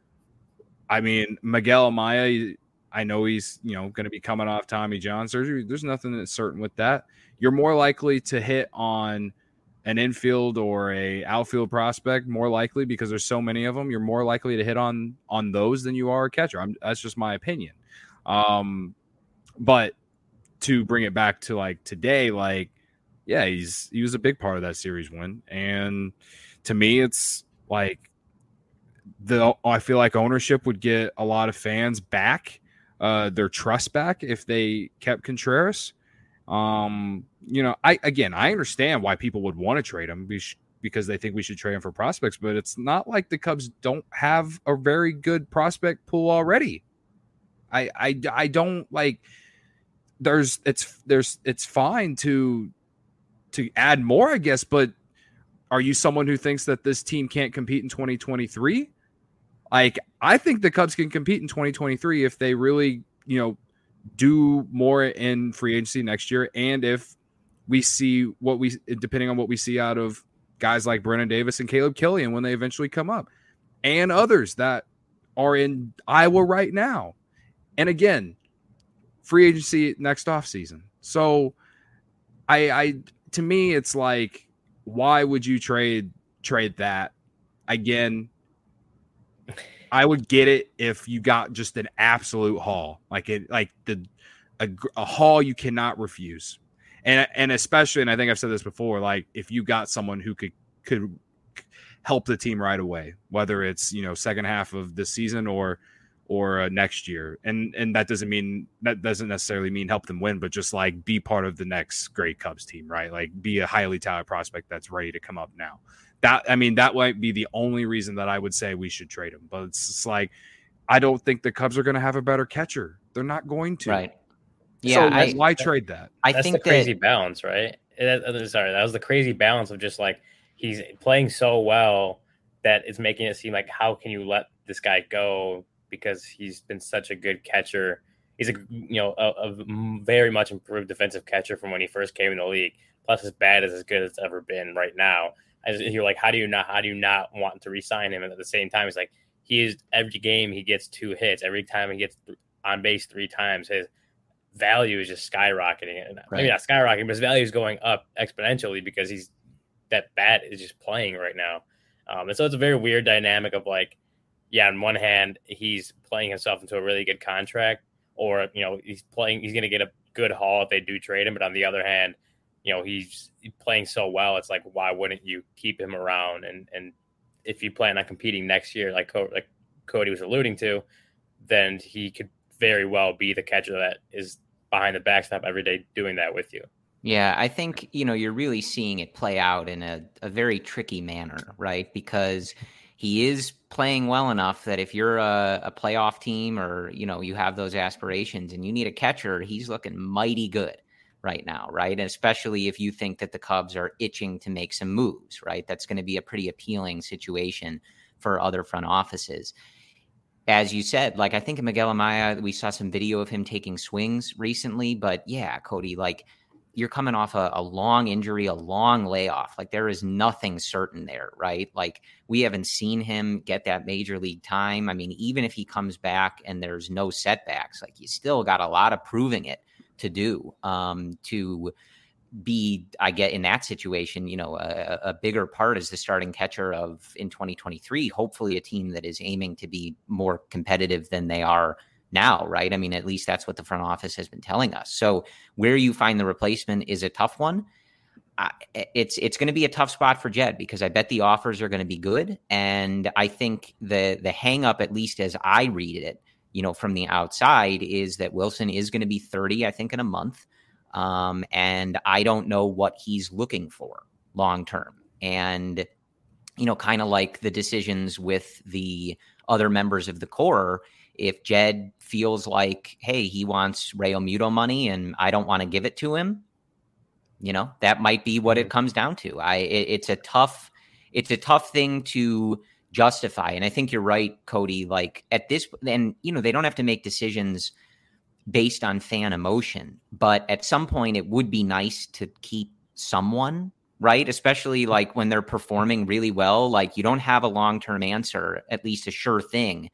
C: I mean, Miguel Amaya, I know he's, you know, going to be coming off Tommy John surgery. There's nothing that's certain with that. You're more likely to hit on an infield or a outfield prospect, more likely, because there's so many of them. You're more likely to hit on on those than you are a catcher. I'm, that's just my opinion. Um, but to bring it back to like today, like, yeah, he's he was a big part of that series win, and to me, it's like the I feel like ownership would get a lot of fans back, uh, their trust back if they kept Contreras. Um, you know, I again, I understand why people would want to trade him because they think we should trade him for prospects, but it's not like the Cubs don't have a very good prospect pool already. I I, I don't like. There's it's there's it's fine to to add more, I guess, but are you someone who thinks that this team can't compete in twenty twenty-three? Like, I think the Cubs can compete in twenty twenty-three if they really, you know, do more in free agency next year. And if we see what we, depending on what we see out of guys like Brennan Davis and Caleb Killian when they eventually come up, and others that are in Iowa right now. And again, free agency next offseason. So I, I, to me, it's like, why would you trade, trade that again? I would get it if you got just an absolute haul, like it, like the a, a haul you cannot refuse, and and especially, and I think I've said this before, like if you got someone who could could help the team right away, whether it's, you know, second half of the season or or uh, next year, and and that doesn't mean that doesn't necessarily mean help them win, but just like be part of the next great Cubs team, right? Like be a highly touted prospect that's ready to come up now. That, I mean, that might be the only reason that I would say we should trade him. But it's just like, I don't think the Cubs are going to have a better catcher. They're not going to.
A: Right. Yeah.
C: So
A: I,
C: why trade that?
A: I
B: That's
A: think
B: the crazy
A: that,
B: balance, right? That, sorry, that was the crazy balance of just like he's playing so well that it's making it seem like, how can you let this guy go because he's been such a good catcher. He's a you know a, a very much improved defensive catcher from when he first came in the league. Plus, his bat is as good as it's ever been right now. As you're like, how do you not how do you not want to re-sign him? And at the same time, it's like he is every game he gets two hits. Every time he gets on base three times, his value is just skyrocketing. And right. Maybe not skyrocketing, but his value is going up exponentially because he's that bat is just playing right now. Um, and so it's a very weird dynamic of like, yeah, on one hand, he's playing himself into a really good contract, or, you know, he's playing, he's going to get a good haul if they do trade him. But on the other hand, you know, he's playing so well. It's like, why wouldn't you keep him around? And, and if you plan on competing next year, like, Co- like Cody was alluding to, then he could very well be the catcher that is behind the backstop every day doing that with you.
A: Yeah, I think, you know, you're really seeing it play out in a, a very tricky manner, right? Because he is playing well enough that if you're a, a playoff team or, you know, you have those aspirations and you need a catcher, he's looking mighty good right now, right? And especially if you think that the Cubs are itching to make some moves, right? That's going to be a pretty appealing situation for other front offices. As you said, like, I think in Miguel Amaya, we saw some video of him taking swings recently, but yeah, Cody, like, you're coming off a, a long injury, a long layoff. Like, there is nothing certain there, right? Like, we haven't seen him get that major league time. I mean, even if he comes back and there's no setbacks, like, you still got a lot of proving it to do um, to be, I get in that situation, you know, a, a bigger part as the starting catcher of in twenty twenty-three, hopefully a team that is aiming to be more competitive than they are now, right? I mean, at least that's what the front office has been telling us. So where you find the replacement is a tough one. Uh, it's it's going to be a tough spot for Jed because I bet the offers are going to be good. And I think the the hang up, at least as I read it, you know, from the outside, is that Wilson is going to be thirty, I think, in a month. Um, and I don't know what he's looking for long term. And, you know, kind of like the decisions with the other members of the core, if Jed feels like, hey, he wants Realmuto money and I don't want to give it to him, you know, that might be what it comes down to. I it, it's a tough, it's a tough thing to justify. And I think you're right, Cody, like at this, and, you know, they don't have to make decisions based on fan emotion, but at some point it would be nice to keep someone, right? Especially like when they're performing really well, like you don't have a long-term answer, at least a sure thing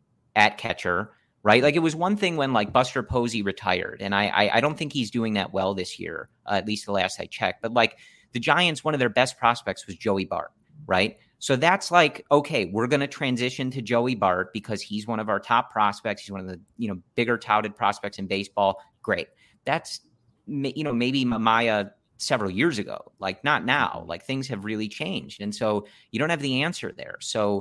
A: at catcher, right? Like it was one thing when like Buster Posey retired, and I I, I don't think he's doing that well this year, uh, at least the last I checked, but like the Giants, one of their best prospects was Joey Bart, right? So that's like, okay, we're going to transition to Joey Bart because he's one of our top prospects. He's one of the, you know, bigger touted prospects in baseball. Great. That's, you know, maybe Maya several years ago, like not now, like things have really changed. And so you don't have the answer there. So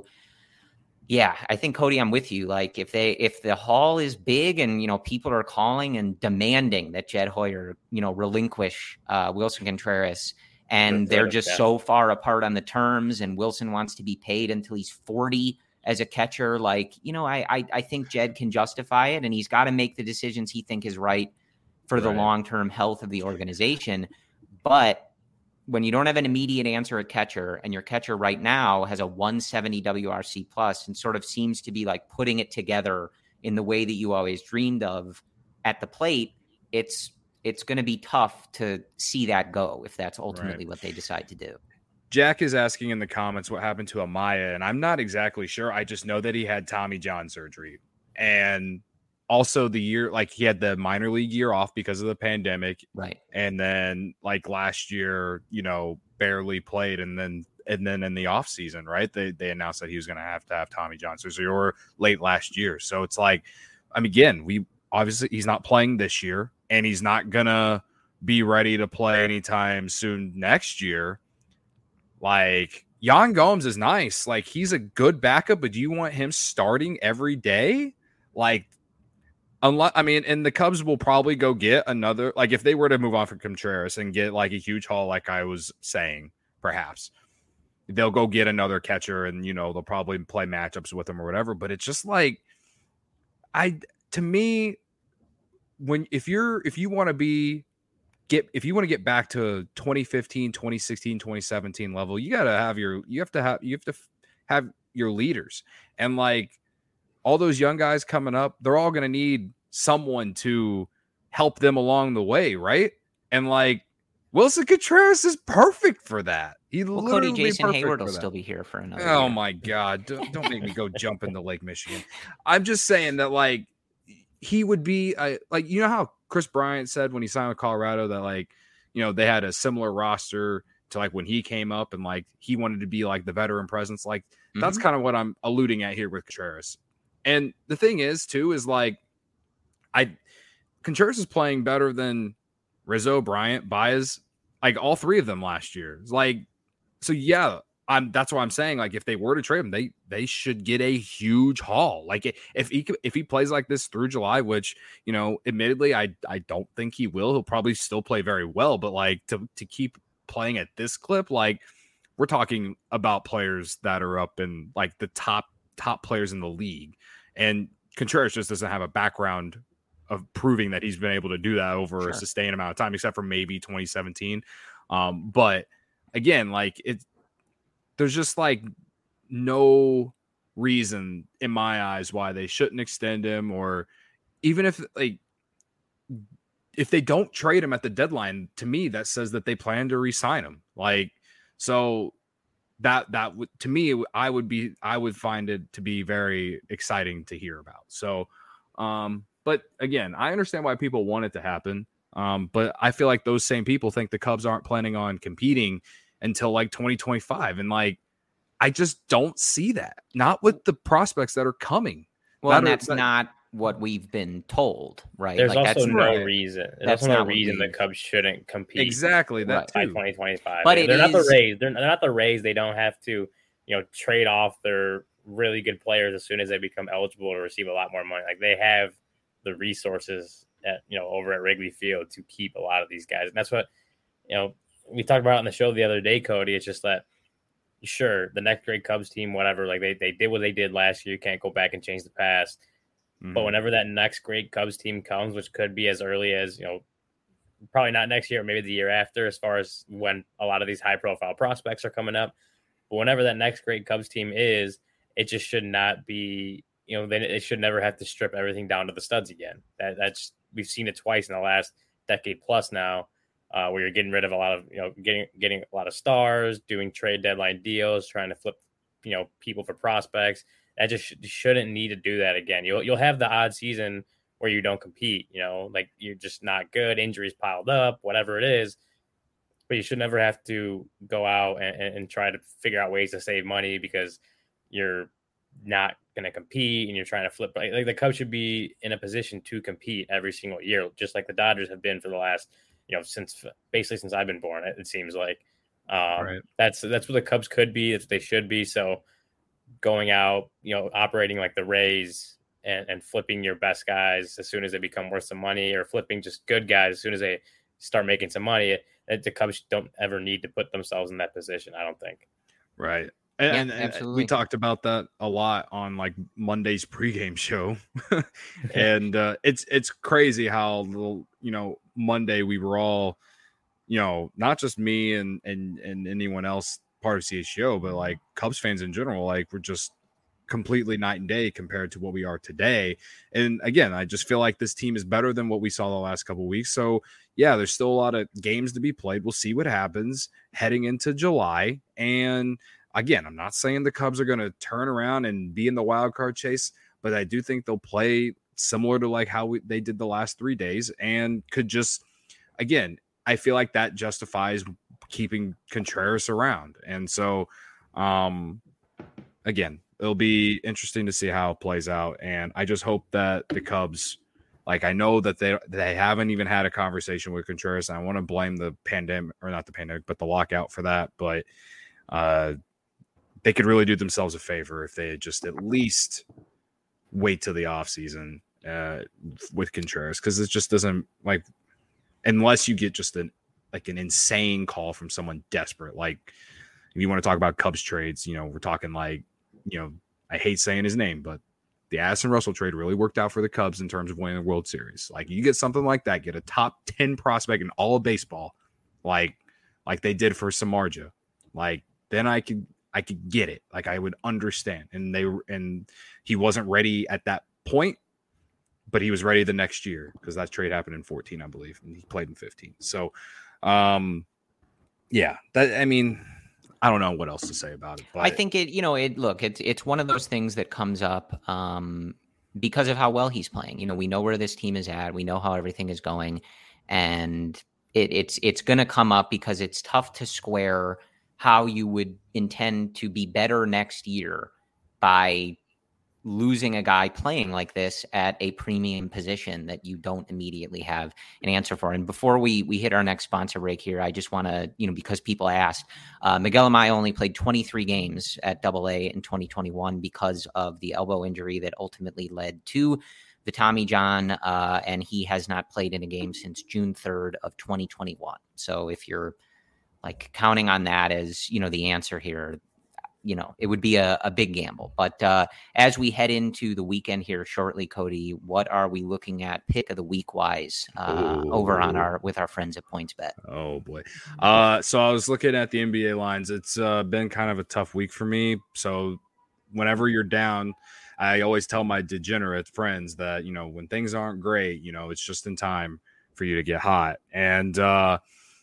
A: yeah, I think, Cody, I'm with you. Like if they, if the haul is big and, you know, people are calling and demanding that Jed Hoyer, you know, relinquish uh, Wilson Contreras, and they're just so far apart on the terms, and Wilson wants to be paid until he's forty as a catcher. Like, you know, I I, I think Jed can justify it, and he's got to make the decisions he think is right for the right. long-term health of the organization. But when you don't have an immediate answer at catcher, and your catcher right now has a one seventy W R C plus and sort of seems to be like putting it together in the way that you always dreamed of at the plate, it's it's going to be tough to see that go if that's ultimately right. what they decide to do.
C: Jack is asking in the comments what happened to Amaya, and I'm not exactly sure. I just know that he had Tommy John surgery, and also the year, like he had the minor league year off because of the pandemic.
A: Right.
C: And then like last year, you know, barely played. And then, and then in the off season, right. They, they announced that he was going to have to have Tommy John surgery or late last year. So it's like, I mean, again, we obviously he's not playing this year, and he's not going to be ready to play anytime soon next year. Like Yan Gomes is nice. Like he's a good backup, but do you want him starting every day? Like, Unless, I mean, and the Cubs will probably go get another, like if they were to move on from Contreras and get like a huge haul, like I was saying, perhaps they'll go get another catcher, and, you know, they'll probably play matchups with him or whatever. But it's just like, I, to me, when, if you're, if you want to be, get, if you want to get back to twenty fifteen, twenty sixteen, twenty seventeen level, you got to have your, you have to have, you have to have your leaders. And like, all those young guys coming up, they're all going to need someone to help them along the way, right? And like Wilson Contreras is perfect for that. He
A: well,
C: literally
A: Cody Jason Hayward will
C: that.
A: still be here for another.
C: Oh
A: year.
C: my God! Don't, don't make me go jump into Lake Michigan. I'm just saying that like he would be uh, like, you know how Chris Bryant said when he signed with Colorado that like, you know, they had a similar roster to like when he came up, and like he wanted to be like the veteran presence. Like mm-hmm. that's kind of what I'm alluding at here with Contreras. And the thing is, too, is like, I Contreras is playing better than Rizzo, Bryant, Baez, like all three of them last year. It's like, so yeah, I'm that's what I'm saying. Like if they were to trade him, they they should get a huge haul. Like if he if he plays like this through July, which you know, admittedly, I I don't think he will. He'll probably still play very well, but like to to keep playing at this clip, like we're talking about players that are up in like the top top players in the league, and Contreras just doesn't have a background of proving that he's been able to do that over sure. a sustained amount of time, except for maybe twenty seventeen. Um, but again, like it's. There's just like no reason in my eyes why they shouldn't extend him, or even if like if they don't trade him at the deadline, to me that says that they plan to re-sign him. Like so that that would to me I would be I would find it to be very exciting to hear about. So um but again, I understand why people want it to happen. Um but I feel like those same people think the Cubs aren't planning on competing until like twenty twenty-five. And like, I just don't see that. Not with the prospects that are coming.
A: Well,
C: that
A: and
C: are,
A: that's
C: that,
A: not what we've been told, right?
B: There's
A: like,
B: also
A: that's,
B: no
C: right.
B: reason. There's
A: that's
B: also no reason the Cubs shouldn't compete.
C: Exactly. That
B: by
C: too.
B: twenty twenty-five.
A: But
B: they're
A: it
B: not
A: is,
B: the Rays. They're, they're not the Rays. They don't have to, you know, trade off their really good players as soon as they become eligible to receive a lot more money. Like they have the resources at, you know, over at Wrigley Field to keep a lot of these guys. And that's what, you know, we talked about on the show the other day, Cody. It's just that, sure, the next great Cubs team, whatever, like they, they did what they did last year. You can't go back and change the past. Mm-hmm. But whenever that next great Cubs team comes, which could be as early as, you know, probably not next year, maybe the year after, as far as when a lot of these high profile prospects are coming up. But whenever that next great Cubs team is, it just should not be, you know, then it should never have to strip everything down to the studs again. That that's we've seen it twice in the last decade plus now. Uh, where you're getting rid of a lot of, you know, getting getting a lot of stars, doing trade deadline deals, trying to flip, you know, people for prospects. That just sh- shouldn't need to do that again. You'll you'll have the odd season where you don't compete, you know, like you're just not good, injuries piled up, whatever it is. But you should never have to go out and, and try to figure out ways to save money because you're not going to compete and you're trying to flip. Like the Cubs should be in a position to compete every single year, just like the Dodgers have been for the last, you know, since basically since I've been born, it, it seems like um, right. that's that's what the Cubs could be. That's what they should be. So going out, you know, operating like the Rays and, and flipping your best guys as soon as they become worth some money, or flipping just good guys as soon as they start making some money, it, the Cubs don't ever need to put themselves in that position, I don't think.
C: Right. And,
A: yeah,
C: and, and we talked about that a lot on like Monday's pregame show. and uh, it's it's crazy how little, you know, Monday we were all, you know, not just me and and and anyone else part of C H G O, but like Cubs fans in general, like we're just completely night and day compared to what we are today. And again, I just feel like this team is better than what we saw the last couple of weeks. So yeah, there's still a lot of games to be played. We'll see what happens heading into July. And again, I'm not saying the Cubs are going to turn around and be in the wild card chase, but I do think they'll play similar to like how we, they did the last three days and could just, again, I feel like that justifies keeping Contreras around. And so, um, again, it'll be interesting to see how it plays out. And I just hope that the Cubs, like, I know that they they haven't even had a conversation with Contreras. And I want to blame the pandemic, or not the pandemic, but the lockout for that. But uh, they could really do themselves a favor if they just at least wait till the offseason uh, with Contreras, because it just doesn't, like, unless you get just an like an insane call from someone desperate. Like, if you want to talk about Cubs trades, you know, we're talking like, you know, I hate saying his name, but the Addison Russell trade really worked out for the Cubs in terms of winning the World Series. Like, you get something like that, get a top ten prospect in all of baseball, like like they did for Samardzija, like then I could I could get it. Like, I would understand. And they and he wasn't ready at that point, but he was ready the next year because that trade happened in fourteen, I believe, and he played in fifteen. So, um, yeah, that I mean. I don't know what else to say about it. But
A: I think it, you know, it look, it's it's one of those things that comes up um, because of how well he's playing. You know, we know where this team is at. We know how everything is going, and it, it's it's going to come up because it's tough to square how you would intend to be better next year by losing a guy playing like this at a premium position that you don't immediately have an answer for. And before we we hit our next sponsor break here, I just want to, you know, because people asked, uh, Miguel Amaya only played twenty-three games at Double A in twenty twenty-one because of the elbow injury that ultimately led to the Tommy John, uh, and he has not played in a game since June third of twenty twenty-one. So if you're like counting on that as, you know, the answer here, you know, it would be a, a big gamble. But uh, as we head into the weekend here shortly, Cody, what are we looking at pick of the week wise uh, over on our with our friends at PointsBet?
C: Oh boy. Uh, so I was looking at the N B A lines. It's uh, been kind of a tough week for me. So whenever you're down, I always tell my degenerate friends that, you know, when things aren't great, you know, it's just in time for you to get hot. And uh,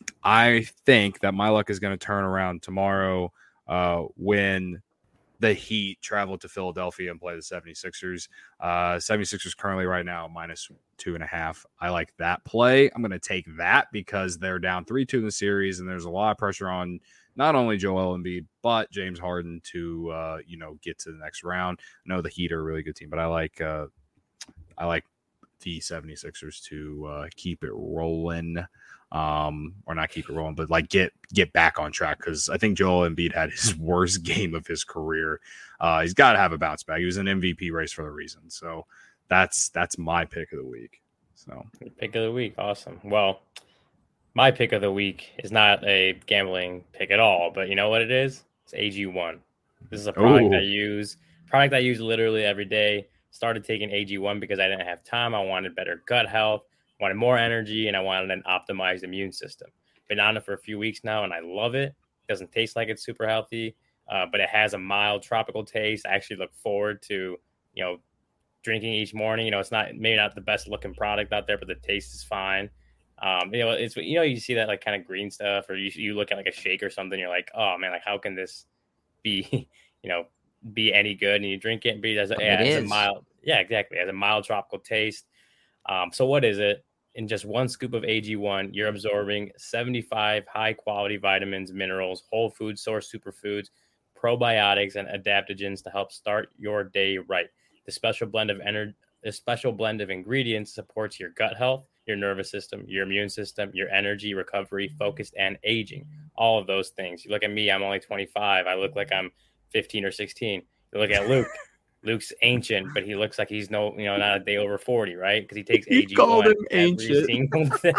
C: I think that my luck is going to turn around tomorrow uh, when the Heat travel to Philadelphia and play the seventy-sixers. Uh, seventy-sixers currently right now minus two and a half. I like that play. I'm going to take that because they're down three two in the series, and there's a lot of pressure on not only Joel Embiid, but James Harden to, uh, you know, get to the next round. I know the Heat are a really good team, but I like uh, I like the seventy-sixers to uh, keep it rolling. Um, or not keep it rolling, but like get get back on track, because I think Joel Embiid had his worst game of his career. Uh, he's got to have a bounce back. He was in M V P race for a reason. So that's that's my pick of the week. So
B: pick of the week, awesome. Well, my pick of the week is not a gambling pick at all, but you know what it is? It's A G one. This is a product Ooh. I use. Product I use literally every day. Started taking A G one because I didn't have time. I wanted better gut health, wanted more energy, and I wanted an optimized immune system. Been on it for a few weeks now, and I love it. It doesn't taste like it's super healthy, uh, but it has a mild tropical taste. I actually look forward to, you know, drinking each morning. You know, it's not maybe not the best looking product out there, but the taste is fine. Um, you know, it's, you know, you see that like kind of green stuff, or you you look at like a shake or something, you're like, oh man, like how can this be, you know, be any good? And you drink it, and it has a, it has a mild, yeah, exactly, it has a mild tropical taste. Um, so what is it? In just one scoop of A G one, you're absorbing seventy-five high-quality vitamins, minerals, whole food source superfoods, probiotics, and adaptogens to help start your day right. The special blend of energy, the special blend of ingredients supports your gut health, your nervous system, your immune system, your energy, recovery, focus, and aging. All of those things. You look at me, I'm only twenty-five. I look like I'm fifteen or sixteen. You look at Luke. Luke's ancient, but he looks like he's no, you know, not a day over forty, right? Because he takes A G one every single day.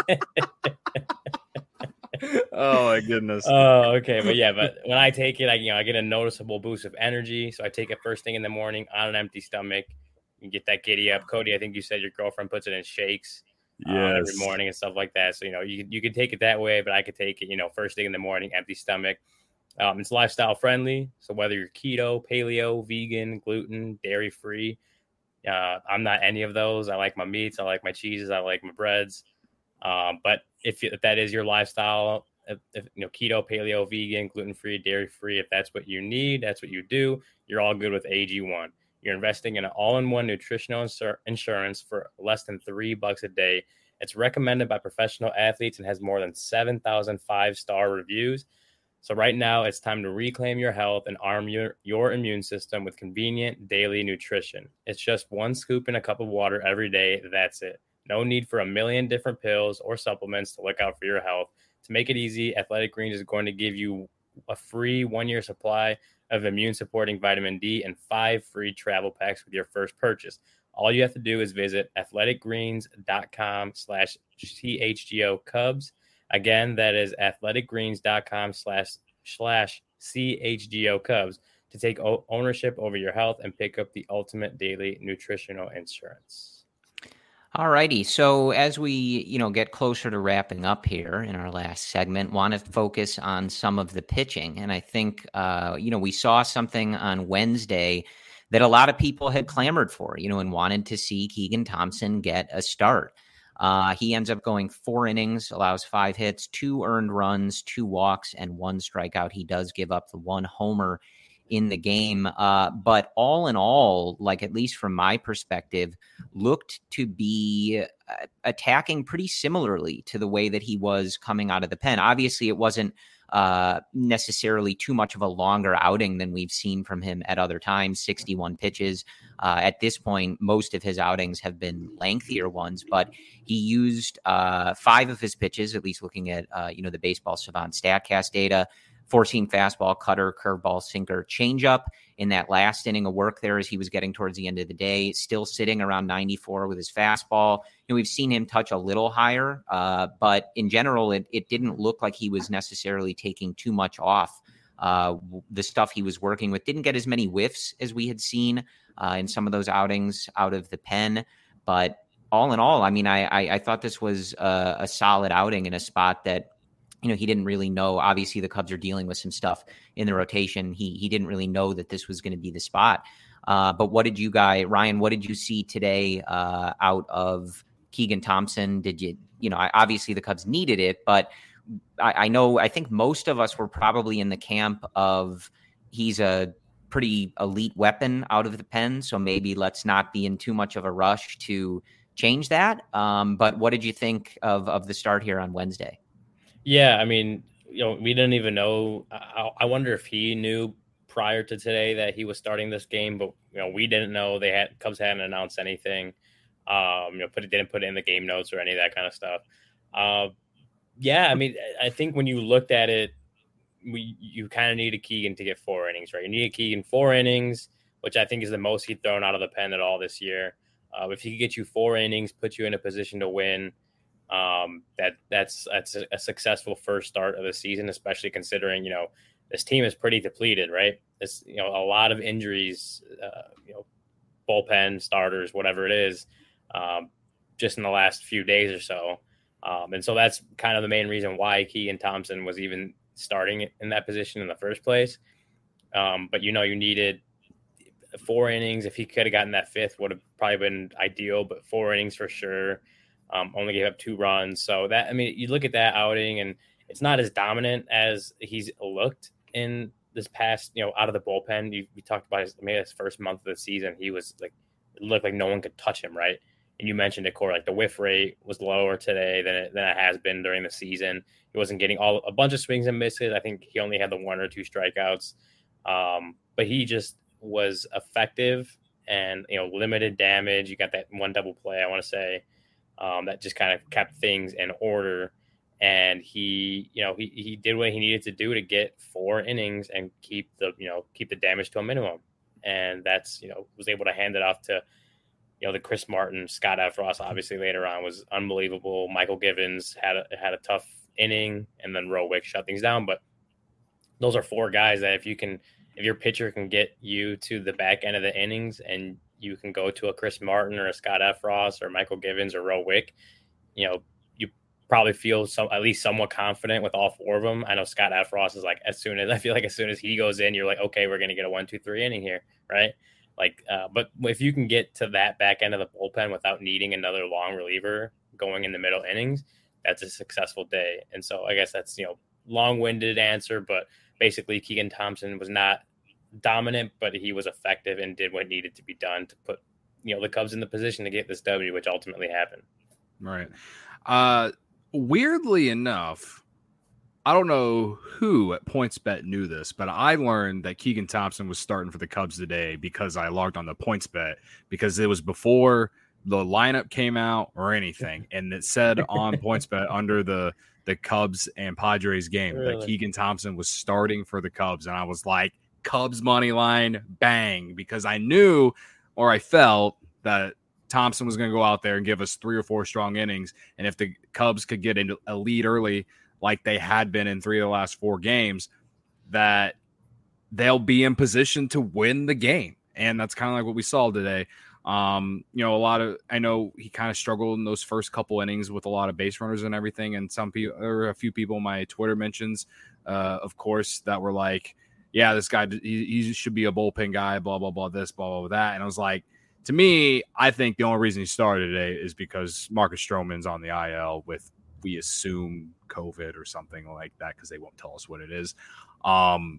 C: Oh my goodness.
B: Oh, okay, but yeah, but when I take it, I you know I get a noticeable boost of energy. So I take it first thing in the morning on an empty stomach. You get that giddy up. Cody, I think you said your girlfriend puts it in shakes yes. uh, every morning and stuff like that. So you know you you could take it that way, but I could take it, you know, first thing in the morning, empty stomach. Um, it's lifestyle friendly. So whether you're keto, paleo, vegan, gluten, dairy free, uh, I'm not any of those. I like my meats. I like my cheeses. I like my breads. Um, but if, if that is your lifestyle, if, if, you know, keto, paleo, vegan, gluten free, dairy free, if that's what you need, that's what you do, you're all good with A G one. You're investing in an all-in-one nutritional insur- insurance for less than three bucks a day. It's recommended by professional athletes and has more than seven thousand five-star reviews. So right now, it's time to reclaim your health and arm your, your immune system with convenient daily nutrition. It's just one scoop in a cup of water every day. That's it. No need for a million different pills or supplements to look out for your health. To make it easy, Athletic Greens is going to give you a free one-year supply of immune-supporting vitamin D and five free travel packs with your first purchase. All you have to do is visit athleticgreens.com slash CHGO Cubs. Again, that is athleticgreens.com slash slash CHGO Cubs to take o- ownership over your health and pick up the ultimate daily nutritional insurance.
A: All righty. So as we, you know, get closer to wrapping up here in our last segment, want to focus on some of the pitching. And I think, uh, you know, we saw something on Wednesday that a lot of people had clamored for, you know, and wanted to see Keegan Thompson get a start. Uh, he ends up going four innings, allows five hits, two earned runs, two walks, and one strikeout. He does give up the one homer in the game. Uh, but all in all, like at least from my perspective, looked to be uh, attacking pretty similarly to the way that he was coming out of the pen. Obviously, it wasn't uh, necessarily too much of a longer outing than we've seen from him at other times, sixty-one pitches. Uh, at this point, most of his outings have been lengthier ones, but he used uh, five of his pitches, at least looking at, uh, you know, the Baseball Savant StatCast data, four-seam fastball, cutter, curveball, sinker, changeup. In that last inning of work there as he was getting towards the end of the day, still sitting around ninety-four with his fastball. You know, we've seen him touch a little higher, uh, but in general, it, it didn't look like he was necessarily taking too much off. Uh, the stuff he was working with didn't get as many whiffs as we had seen uh, in some of those outings out of the pen. But all in all, I mean, I, I, I thought this was a, a solid outing in a spot that, you know, he didn't really know. Obviously, the Cubs are dealing with some stuff in the rotation. He he didn't really know that this was going to be the spot. Uh, but what did you guys, Ryan, what did you see today uh, out of Keegan Thompson? Did you, you know, obviously the Cubs needed it, but I, I know, I think most of us were probably in the camp of he's a pretty elite weapon out of the pen. So maybe let's not be in too much of a rush to change that. Um, but what did you think of, of the start here on Wednesday?
B: Yeah, I mean, you know, we didn't even know. I, I wonder if he knew prior to today that he was starting this game, but you know, we didn't know. They had Cubs hadn't announced anything. Um, you know, put it didn't put it in the game notes or any of that kind of stuff. Uh, yeah, I mean, I think when you looked at it, we you kind of needed Keegan to get four innings, right? You needed Keegan four innings, which I think is the most he's thrown out of the pen at all this year. Uh, if he could get you four innings, put you in a position to win. Um, that that's that's a, a successful first start of the season, especially considering, you know, this team is pretty depleted, right? It's, you know, a lot of injuries, uh, you know, bullpen starters, whatever it is, um, just in the last few days or so. Um, and so that's kind of the main reason why Keegan Thompson was even starting in that position in the first place. Um, but, you know, you needed four innings. If he could have gotten that fifth, would have probably been ideal, but four innings for sure. Um, only gave up two runs. So that, I mean, you look at that outing and it's not as dominant as he's looked in this past, you know, out of the bullpen. You, you talked about his, maybe his first month of the season. He was like, it looked like no one could touch him. Right. And you mentioned it, Corey, like the whiff rate was lower today than it, than it has been during the season. He wasn't getting all a bunch of swings and misses. I think he only had the one or two strikeouts. Um, but he just was effective and, you know, limited damage. You got that one double play, I want to say. Um, that just kind of kept things in order. And he, you know, he, he did what he needed to do to get four innings and keep the, you know, keep the damage to a minimum. And that's, you know, was able to hand it off to, you know, the Chris Martin, Scott Effross, obviously later on was unbelievable. Michael Givens had a, had a tough inning, and then Rowick shut things down. But those are four guys that if you can, if your pitcher can get you to the back end of the innings and you can go to a Chris Martin or a Scott Effross or Michael Givens or Rowick, you know, you probably feel some at least somewhat confident with all four of them. I know Scott Effross is like, as soon as I feel like as soon as he goes in, you're like, okay, we're going to get a one, two, three inning here. Right. Like, uh, but if you can get to that back end of the bullpen without needing another long reliever going in the middle innings, that's a successful day. And so I guess that's, you know, long-winded answer, but basically Keegan Thompson was not dominant, but he was effective and did what needed to be done to put, you know, the Cubs in the position to get this W, which ultimately happened.
C: Right. Uh, weirdly enough, I don't know who at PointsBet knew this, but I learned that Keegan Thompson was starting for the Cubs today because I logged on to PointsBet, because it was before the lineup came out or anything. And it said on PointsBet under the, the Cubs and Padres game really? that Keegan Thompson was starting for the Cubs. And I was like, Cubs money line, bang, because I knew, or I felt that Thompson was going to go out there and give us three or four strong innings. And if the Cubs could get into a lead early, like they had been in three of the last four games, that they'll be in position to win the game. And that's kind of like what we saw today. Um, you know, a lot of, I know he kind of struggled in those first couple innings with a lot of base runners and everything. And some people, or a few people in my Twitter mentions, uh, of course, that were like, yeah, this guy, he, he should be a bullpen guy, blah, blah, blah, this, blah, blah, blah, that. And I was like, to me, I think the only reason he started today is because Marcus Stroman's on the I L with, we assume, COVID or something like that, because they won't tell us what it is. Um,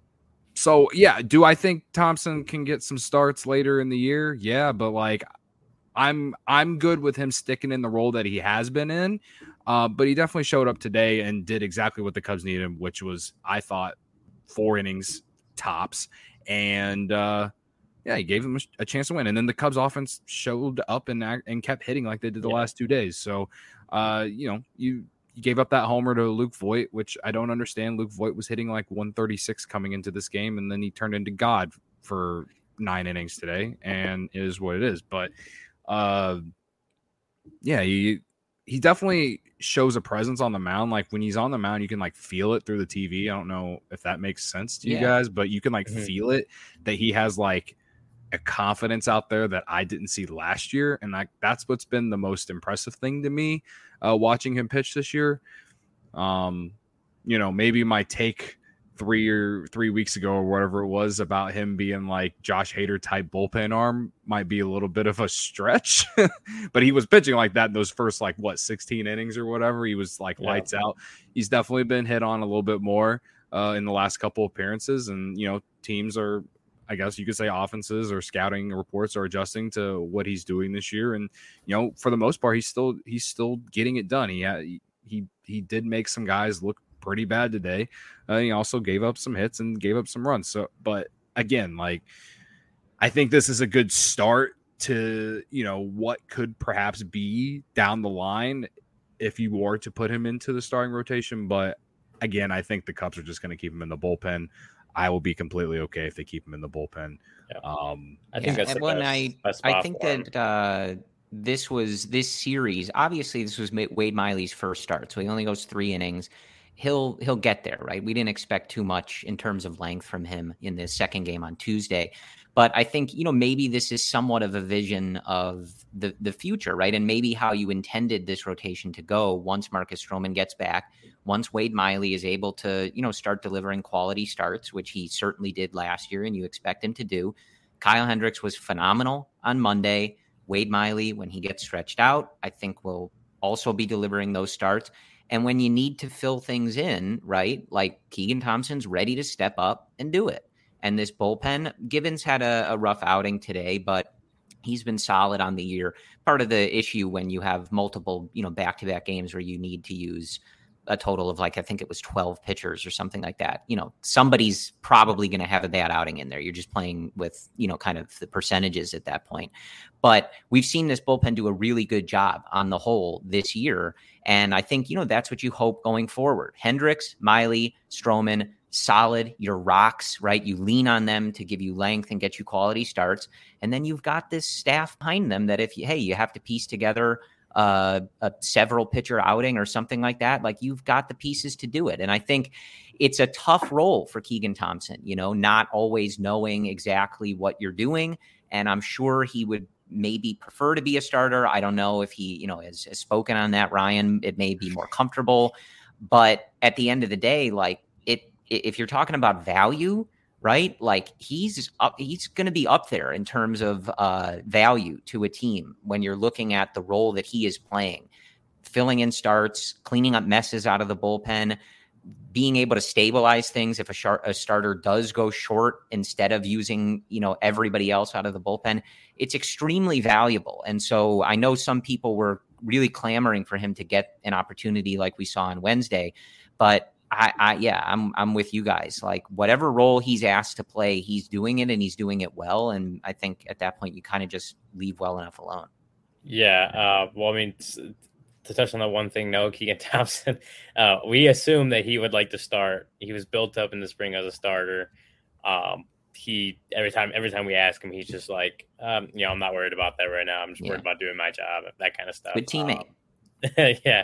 C: so, yeah, do I think Thompson can get some starts later in the year? Yeah, but like I'm I'm good with him sticking in the role that he has been in. Uh, but he definitely showed up today and did exactly what the Cubs needed, which was, I thought, four innings tops. And uh, yeah, he gave them a, a chance to win. And then the Cubs offense showed up and and kept hitting like they did the yeah. last two days. So, uh, you know, you, you gave up that homer to Luke Voit, which I don't understand. Luke Voit was hitting like one thirty-six coming into this game, and then he turned into God for nine innings today, and it is what it is. But uh, yeah, he he definitely shows a presence on the mound. Like when he's on the mound, you can like feel it through the T V. I don't know if that makes sense to yeah. you guys, but you can like mm-hmm. feel it that he has like a confidence out there that I didn't see last year. And like, that's what's been the most impressive thing to me uh, watching him pitch this year. Um, you know, maybe my take three or three weeks ago or whatever it was about him being like Josh Hader type bullpen arm might be a little bit of a stretch, but he was pitching like that in those first, like what, sixteen innings or whatever. He was like yeah. lights out. He's definitely been hit on a little bit more uh, in the last couple appearances. And, you know, teams are, I guess you could say offenses or scouting reports are adjusting to what he's doing this year. And, you know, for the most part, he's still, he's still getting it done. He had, he, he did make some guys look pretty bad today. Uh, he also gave up some hits and gave up some runs. So, but again, like, I think this is a good start to, you know, what could perhaps be down the line if you were to put him into the starting rotation. But again, I think the Cubs are just going to keep him in the bullpen. I will be completely okay if they keep him in the bullpen.
B: Yeah.
C: Um,
B: I think
A: yeah,
B: that's the
A: when
B: best,
A: I,
B: best
A: I think that uh, this was this series. Obviously, this was Wade Miley's first start, so he only goes three innings. He'll he'll get there, right? We didn't expect too much in terms of length from him in the second game on Tuesday. But I think, you know, maybe this is somewhat of a vision of the, the future, right? And maybe how you intended this rotation to go once Marcus Stroman gets back, once Wade Miley is able to, you know, start delivering quality starts, which he certainly did last year and you expect him to do. Kyle Hendricks was phenomenal on Monday. Wade Miley, when he gets stretched out, I think will also be delivering those starts. And when you need to fill things in, right, like Keegan Thompson's ready to step up and do it. And this bullpen, Gibbons had a, a rough outing today, but he's been solid on the year. Part of the issue when you have multiple, you know, back-to-back games where you need to use a total of like, I think it was twelve pitchers or something like that. You know, somebody's probably going to have a bad outing in there. You're just playing with, you know, kind of the percentages at that point. But we've seen this bullpen do a really good job on the whole this year. And I think, you know, that's what you hope going forward. Hendricks, Miley, Stroman, solid, your rocks, right? You lean on them to give you length and get you quality starts. And then you've got this staff behind them that if you, hey, you have to piece together uh, a several pitcher outing or something like that, like you've got the pieces to do it. And I think it's a tough role for Keegan Thompson, you know, not always knowing exactly what you're doing. And I'm sure he would maybe prefer to be a starter. I don't know if he, you know, has, has spoken on that, Ryan. It may be more comfortable. But at the end of the day, like it, if you're talking about value, right? Like he's up, he's going to be up there in terms of uh, value to a team when you're looking at the role that he is playing, filling in starts, cleaning up messes out of the bullpen, being able to stabilize things if a, shar- a starter does go short instead of using, you know, everybody else out of the bullpen. It's extremely valuable. And so I know some people were really clamoring for him to get an opportunity like we saw on Wednesday, but I, I, yeah, I'm, I'm with you guys. Like whatever role he's asked to play, he's doing it and he's doing it well. And I think at that point you kind of just leave well enough alone.
B: Yeah. Uh, well, I mean, to touch on that one thing, no, Keegan Thompson, uh, we assume that he would like to start. He was built up in the spring as a starter. Um, he, every time, every time we ask him, he's just like, um, you know, I'm not worried about that right now. I'm just yeah. worried about doing my job, that kind of stuff.
A: Good teammate.
B: Um, yeah.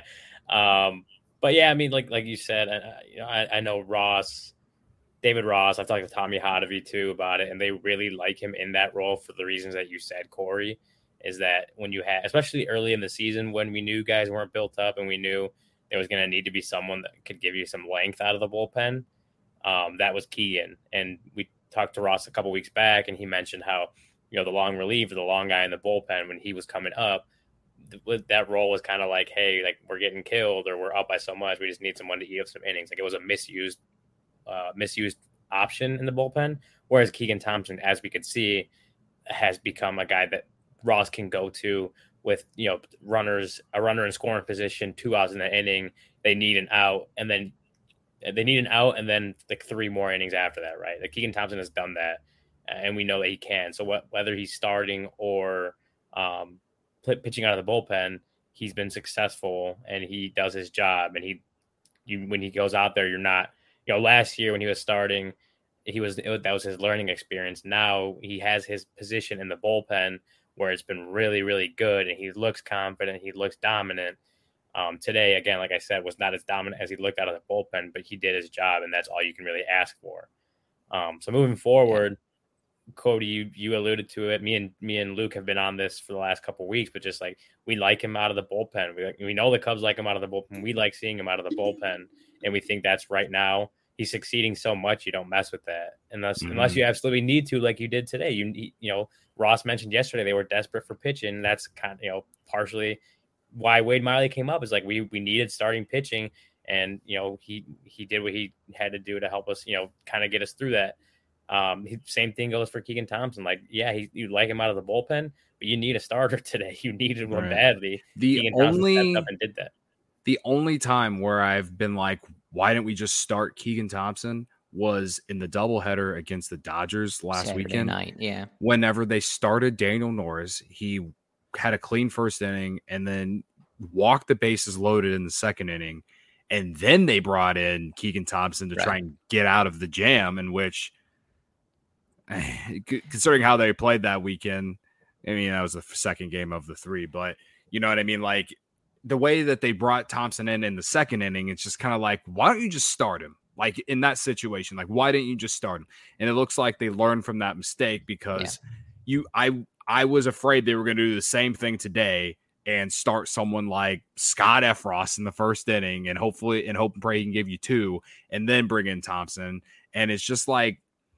B: Um, But yeah, I mean, like like you said, I, you know, I, I know Ross, David Ross. I've talked to Tommy Hotovy too about it, and they really like him in that role for the reasons that you said, Corey. Is that when you had, especially early in the season, when we knew guys weren't built up, and we knew there was going to need to be someone that could give you some length out of the bullpen, um, that was Keegan. And we talked to Ross a couple weeks back, and he mentioned how, you know, the long reliever, the long guy in the bullpen, when he was coming up, that role was kind of like, hey, like we're getting killed or we're up by so much, we just need someone to eat up some innings. Like it was a misused uh misused option in the bullpen, whereas Keegan Thompson, as we could see, has become a guy that Ross can go to with, you know, runners, a runner in scoring position, two outs in the inning, they need an out, and then they need an out, and then like three more innings after that, right? Like Keegan Thompson has done that, and we know that he can. So what, whether he's starting or um, pitching out of the bullpen, he's been successful, and he does his job. And he, you, when he goes out there, you're not, you know, last year when he was starting, he was, it, that was his learning experience. Now he has his position in the bullpen where it's been really, really good, and he looks confident. He looks dominant. Um, today, again, like I said, was not as dominant as he looked out of the bullpen, but he did his job, and that's all you can really ask for. Um, so moving forward, Cody, you you alluded to it. Me and me and Luke have been on this for the last couple of weeks, but just like we like him out of the bullpen. We like, we know the Cubs like him out of the bullpen. We like seeing him out of the bullpen, and we think that's right now. He's succeeding so much, you don't mess with that unless mm-hmm. unless you absolutely need to, like you did today. You you know, Ross mentioned yesterday they were desperate for pitching. That's kind of, you know, partially why Wade Miley came up, is like we we needed starting pitching, and you know he he did what he had to do to help us, you know, kind of get us through that. Um, he, same thing goes for Keegan Thompson. Like, yeah, he, you like him out of the bullpen, but you need a starter today. You needed one right. badly.
C: The
B: Keegan
C: only
B: Thompson stepped up and did that.
C: The only time where I've been like, why didn't we just start Keegan Thompson, was in the doubleheader against the Dodgers last
A: Saturday
C: weekend.
A: Night, yeah.
C: Whenever they started Daniel Norris, he had a clean first inning and then walked the bases loaded in the second inning, and then they brought in Keegan Thompson to right. try and get out of the jam, in which, considering how they played that weekend, I mean, that was the second game of the three, but you know what I mean? Like, the way that they brought Thompson in in the second inning, it's just kind of like, why don't you just start him? Like, in that situation, like, why didn't you just start him? And it looks like they learned from that mistake, because yeah. you, I, I was afraid they were going to do the same thing today and start someone like Scott Effross in the first inning, and hopefully, and hope and pray he can give you two, and then bring in Thompson. And it's just like,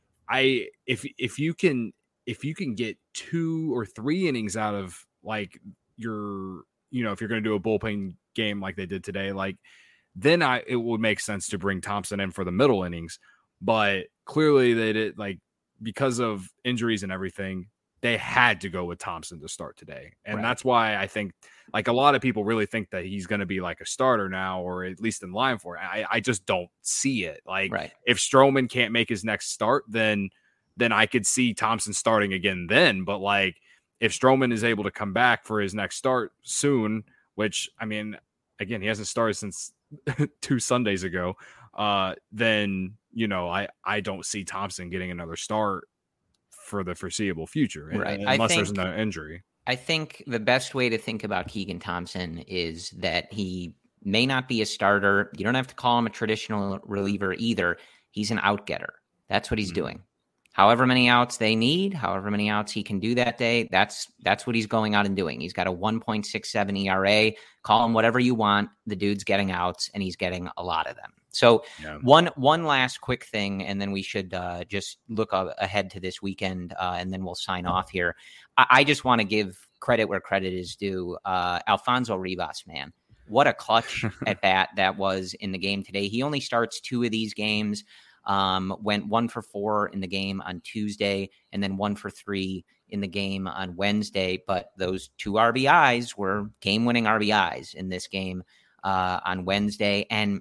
C: I, if, if you can, if you can get two or three innings out of like your, you know, if you're going to do a bullpen game like they did today, like, then I, it would make sense to bring Thompson in for the middle innings. But clearly they did, like, because of injuries and everything, they had to go with Thompson to start today. And right. that's why I think, like, a lot of people really think that he's going to be like a starter now, or at least in line for it. I, I just don't see it. Like, right. if Stroman can't make his next start, then, then I could see Thompson starting again then. But like, if Stroman is able to come back for his next start soon, which, I mean, again, he hasn't started since two Sundays ago, uh, then, you know, I, I don't see Thompson getting another start for the foreseeable future, right. unless think, there's no injury.
A: I think the best way to think about Keegan Thompson is that he may not be a starter. You don't have to call him a traditional reliever either. He's an out-getter. That's what he's mm-hmm. doing. However many outs they need, however many outs he can do that day, that's that's what he's going out and doing. He's got a one point six seven E R A. Call him whatever you want. The dude's getting outs, and he's getting a lot of them. So yeah. one one last quick thing, and then we should uh, just look uh, ahead to this weekend, uh, and then we'll sign off here. I, I just want to give credit where credit is due. Uh, Alfonso Rivas, man. What a clutch at bat that was in the game today. He only starts two of these games. Um, went one for four in the game on Tuesday, and then one for three in the game on Wednesday. But those two R B Is were game-winning R B Is in this game uh, on Wednesday. And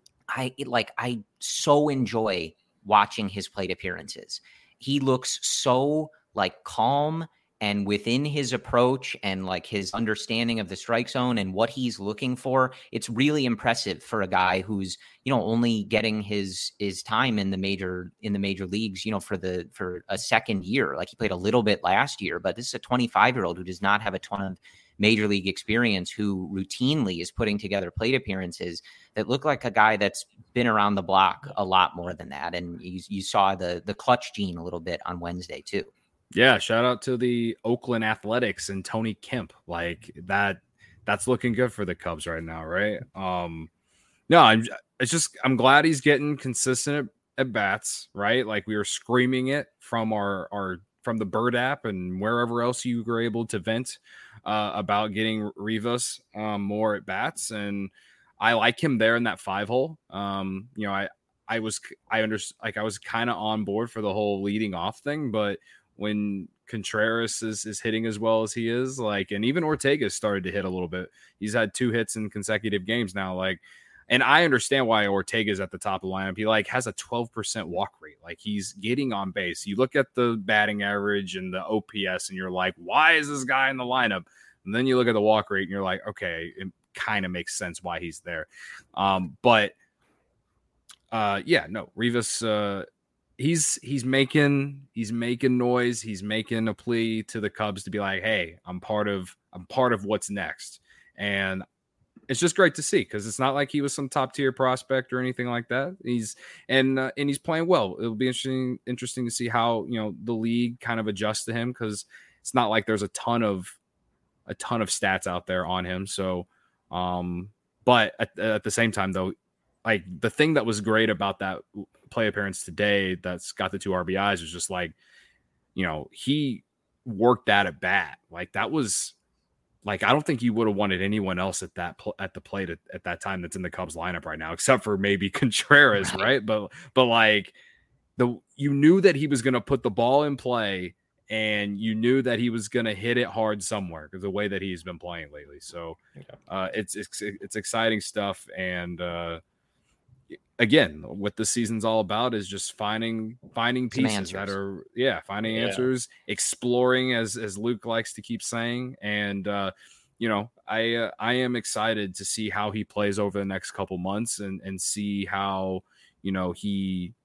A: I like I so enjoy watching his plate appearances. He looks so like calm and within his approach and like his understanding of the strike zone and what he's looking for. It's really impressive for a guy who's, you know, only getting his his time in the major in the major leagues, you know, for the for a second year. Like, he played a little bit last year, but this is a twenty-five year old who does not have a ton of major league experience, who routinely is putting together plate appearances that look like a guy that's been around the block a lot more than that. And you, you saw the the clutch gene a little bit on Wednesday too.
C: Yeah, shout out to the Oakland Athletics and Tony Kemp. Like, that, that's looking good for the Cubs right now, right? Um, no, I'm it's just I'm glad he's getting consistent at, at bats, right? Like, we were screaming it from our our from the Bird app and wherever else you were able to vent uh, about getting Rivas um, more at bats, and I like him there in that five hole. Um, you know, I I was I under like I was kind of on board for the whole leading off thing, but when Contreras is, is hitting as well as he is. Like, and even Ortega started to hit a little bit. He's had two hits in consecutive games now. Like, and I understand why Ortega's at the top of the lineup. He like has a twelve percent walk rate. Like he's getting on base. You look at the batting average and the O P S and you're like, why is this guy in the lineup? And then you look at the walk rate and you're like, okay, it kind of makes sense why he's there. Um, but uh, yeah, no, Rivas, uh, he's, he's making, he's making noise. He's making a plea to the Cubs to be like, hey, I'm part of, I'm part of what's next. And it's just great to see because it's not like he was some top tier prospect or anything like that. He's and uh, and he's playing well. It'll be interesting interesting to see how, you know, the league kind of adjusts to him because it's not like there's a ton of a ton of stats out there on him. So, um, but at, at the same time though, like the thing that was great about that play appearance today that's got the two R B Is was just like, you know, he worked that at bat. Like that was. Like, I don't think you would have wanted anyone else at that pl- at the plate at, at that time that's in the Cubs lineup right now, except for maybe Contreras, right? right? But but like the you knew that he was going to put the ball in play, and you knew that he was going to hit it hard somewhere because the way that he's been playing lately. So uh, it's it's it's exciting stuff, and uh, again, what the season's all about is just finding finding pieces that are yeah finding yeah. answers, exploring as as Luke likes to keep saying. And uh you know I uh, I am excited to see how he plays over the next couple months and and see how, you know, he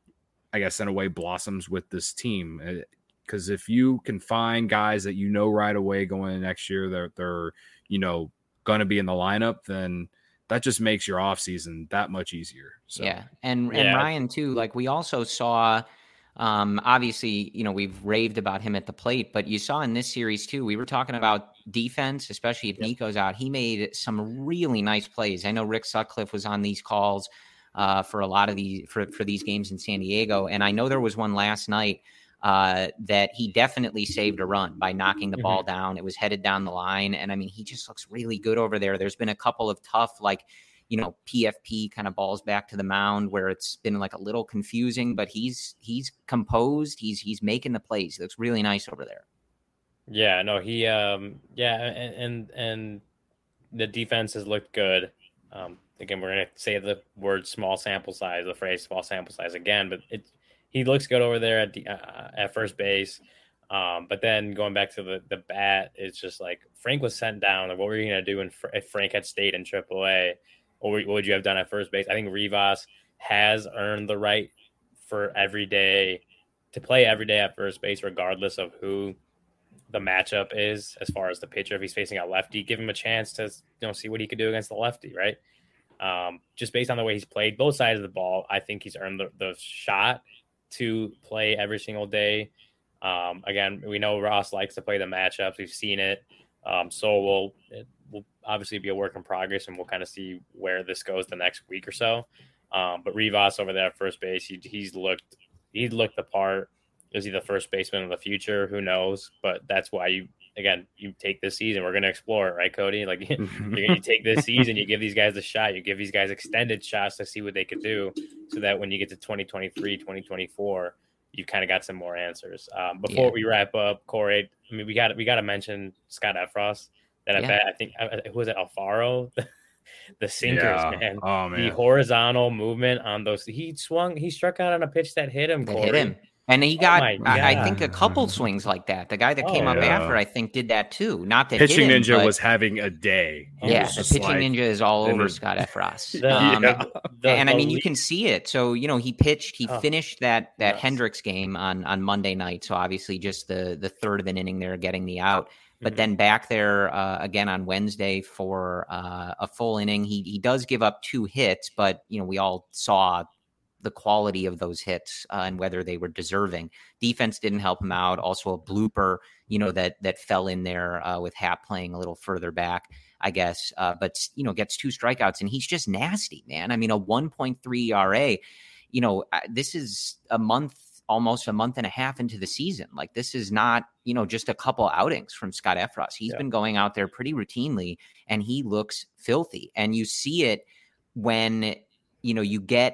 C: I guess in a way blossoms with this team, because if you can find guys that you know right away going into next year that they're, they're you know going to be in the lineup, then that just makes your off season that much easier. So.
A: Yeah. And,
B: yeah.
A: and Ryan too, like we also saw, um, obviously, you know, we've raved about him at the plate, but you saw in this series too, we were talking about defense, especially if yep. Nico's out. He made some really nice plays. I know Rick Sutcliffe was on these calls uh, for a lot of these, for, for these games in San Diego. And I know there was one last night uh, that he definitely saved a run by knocking the mm-hmm. ball down. It was headed down the line. And I mean, he just looks really good over there. There's been a couple of tough, like, you know, P F P kind of balls back to the mound where it's been like a little confusing, but he's, he's composed. He's, he's making the plays. He looks really nice over there.
B: Yeah, no, he, um, yeah. And, and, and the defense has looked good. Um, again, we're going to say the word small sample size, the phrase small sample size again, but it, he looks good over there at the, uh, at first base. Um, but then going back to the, the bat, it's just like Frank was sent down. Like, what were you going to do in, if Frank had stayed in triple A? Or what would you have done at first base? I think Rivas has earned the right for every day to play every day at first base, regardless of who the matchup is. As far as the pitcher, if he's facing a lefty, give him a chance to, you know, see what he could do against the lefty, right? Um, just based on the way he's played both sides of the ball, I think he's earned the, the shot to play every single day. Um, again, we know Ross likes to play the matchups. We've seen it. Um, so we'll, it will obviously be a work in progress, and we'll kind of see where this goes the next week or so. Um, but Rivas over there at first base, he, he's looked, he looked the part. Is he the first baseman of the future? Who knows? But that's why you, again, you take this season. We're going to explore it, right, Cody? Like you, you take this season, you give these guys a shot, you give these guys extended shots to see what they could do, so that when you get to twenty twenty-three, twenty twenty-four, you kind of got some more answers. Um, before yeah. we wrap up, Corey, I mean, we got we got to mention Scott Effross. That yeah. I bet I think who was it, Alfaro, the sinkers,
C: yeah.
B: man.
C: Oh man,
B: the horizontal movement on those. He swung, he struck out on a pitch that hit him.
A: That
B: Corey.
A: hit him. And he got,
B: oh
A: I, I think, a couple swings like that. The guy that came oh, up yeah. after, I think, did that too. Not that
C: pitching
A: hit him,
C: ninja
A: but,
C: was having a day.
A: He yeah, the pitching like, ninja is all over Scott Effross. um, yeah. the, and I mean, you can see it. So you know, he pitched, he oh, finished that that yes. Hendricks game on on Monday night. So obviously, just the the third of an inning there, getting the out. But mm-hmm. then back there uh, again on Wednesday for uh, a full inning. He he does give up two hits, but you know, we all saw the quality of those hits uh, and whether they were deserving. Defense didn't help him out. Also a blooper, you know, that that fell in there uh, with Happ playing a little further back, I guess. Uh, but, you know, gets two strikeouts, and he's just nasty, man. I mean, a one point three E R A, you know, this is a month, almost a month and a half into the season. Like, this is not, you know, just a couple outings from Scott Effross. He's yeah. been going out there pretty routinely, and he looks filthy. And you see it when, you know, you get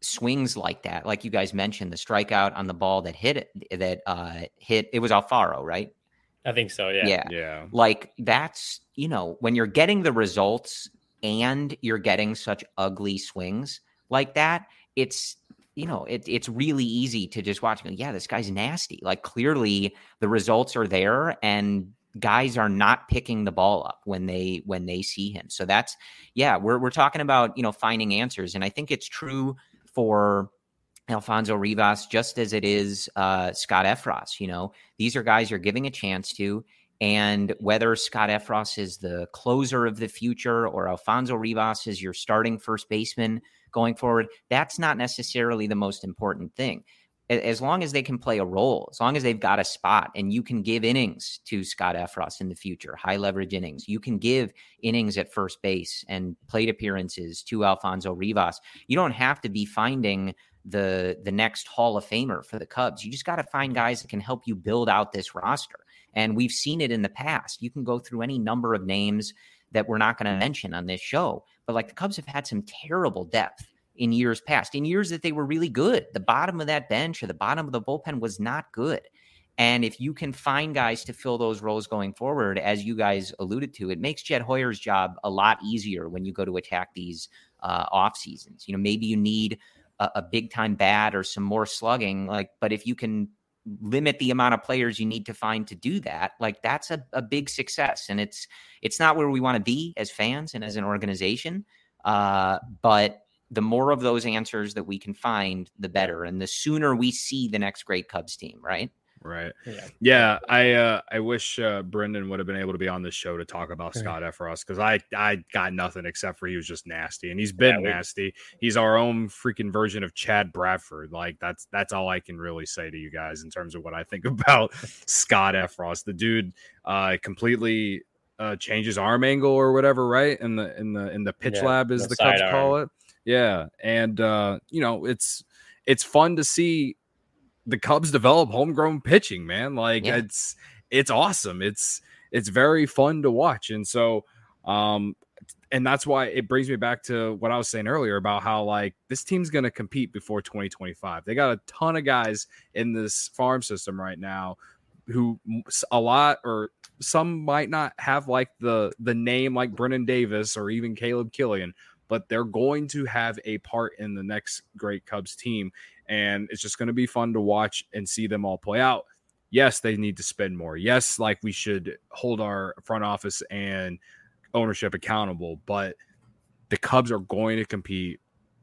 A: swings like that, like you guys mentioned, the strikeout on the ball that hit it, that uh, hit, it was Alfaro, right?
B: I think so. Yeah.
A: Yeah.
C: Yeah.
A: Like that's, you know, when you're getting the results and you're getting such ugly swings like that, it's, you know, it, it's really easy to just watch. Yeah, this guy's nasty. Like clearly the results are there and guys are not picking the ball up when they when they see him. So that's, yeah, we're we're talking about, you know, finding answers. And I think it's true for Alfonso Rivas, just as it is uh, Scott Effross. You know, these are guys you're giving a chance to. And whether Scott Effross is the closer of the future or Alfonso Rivas is your starting first baseman going forward, that's not necessarily the most important thing. As long as they can play a role, as long as they've got a spot and you can give innings to Scott Effross in the future, high leverage innings, you can give innings at first base and plate appearances to Alfonso Rivas. You don't have to be finding the, the next Hall of Famer for the Cubs. You just got to find guys that can help you build out this roster. And we've seen it in the past. You can go through any number of names that we're not going to mention on this show, but like the Cubs have had some terrible depth in years past, in years that they were really good. The bottom of that bench or the bottom of the bullpen was not good. And if you can find guys to fill those roles going forward, as you guys alluded to, it makes Jed Hoyer's job a lot easier when you go to attack these uh, off seasons. You know, maybe you need a, a big time bat or some more slugging, like, but if you can limit the amount of players you need to find to do that, like that's a, a big success. And it's, it's not where we want to be as fans and as an organization. Uh, but the more of those answers that we can find, the better. And the sooner we see the next great Cubs team, right?
C: Right.
B: Yeah.
C: Yeah. I uh, I wish uh, Brendan would have been able to be on this show to talk about Scott Effross, because I, I got nothing except for he was just nasty. And he's been yeah, we, nasty. He's our own freaking version of Chad Bradford. Like that's that's all I can really say to you guys in terms of what I think about Scott Effross. The dude uh, completely uh, changes arm angle or whatever, right? In the in the in the pitch yeah, lab, as the, the Cubs arm. call it. Yeah. And uh, you know, it's it's fun to see the Cubs develop homegrown pitching, man. Like yeah. it's, it's awesome. It's, it's very fun to watch. And so, um, and that's why it brings me back to what I was saying earlier about how like this team's going to compete before twenty twenty-five. They got a ton of guys in this farm system right now who a lot, or some might not have like the, the name like Brennan Davis or even Caleb Killian, but they're going to have a part in the next great Cubs team. And it's just going to be fun to watch and see them all play out. Yes, they need to spend more. Yes, like we should hold our front office and ownership accountable, but the Cubs are going to compete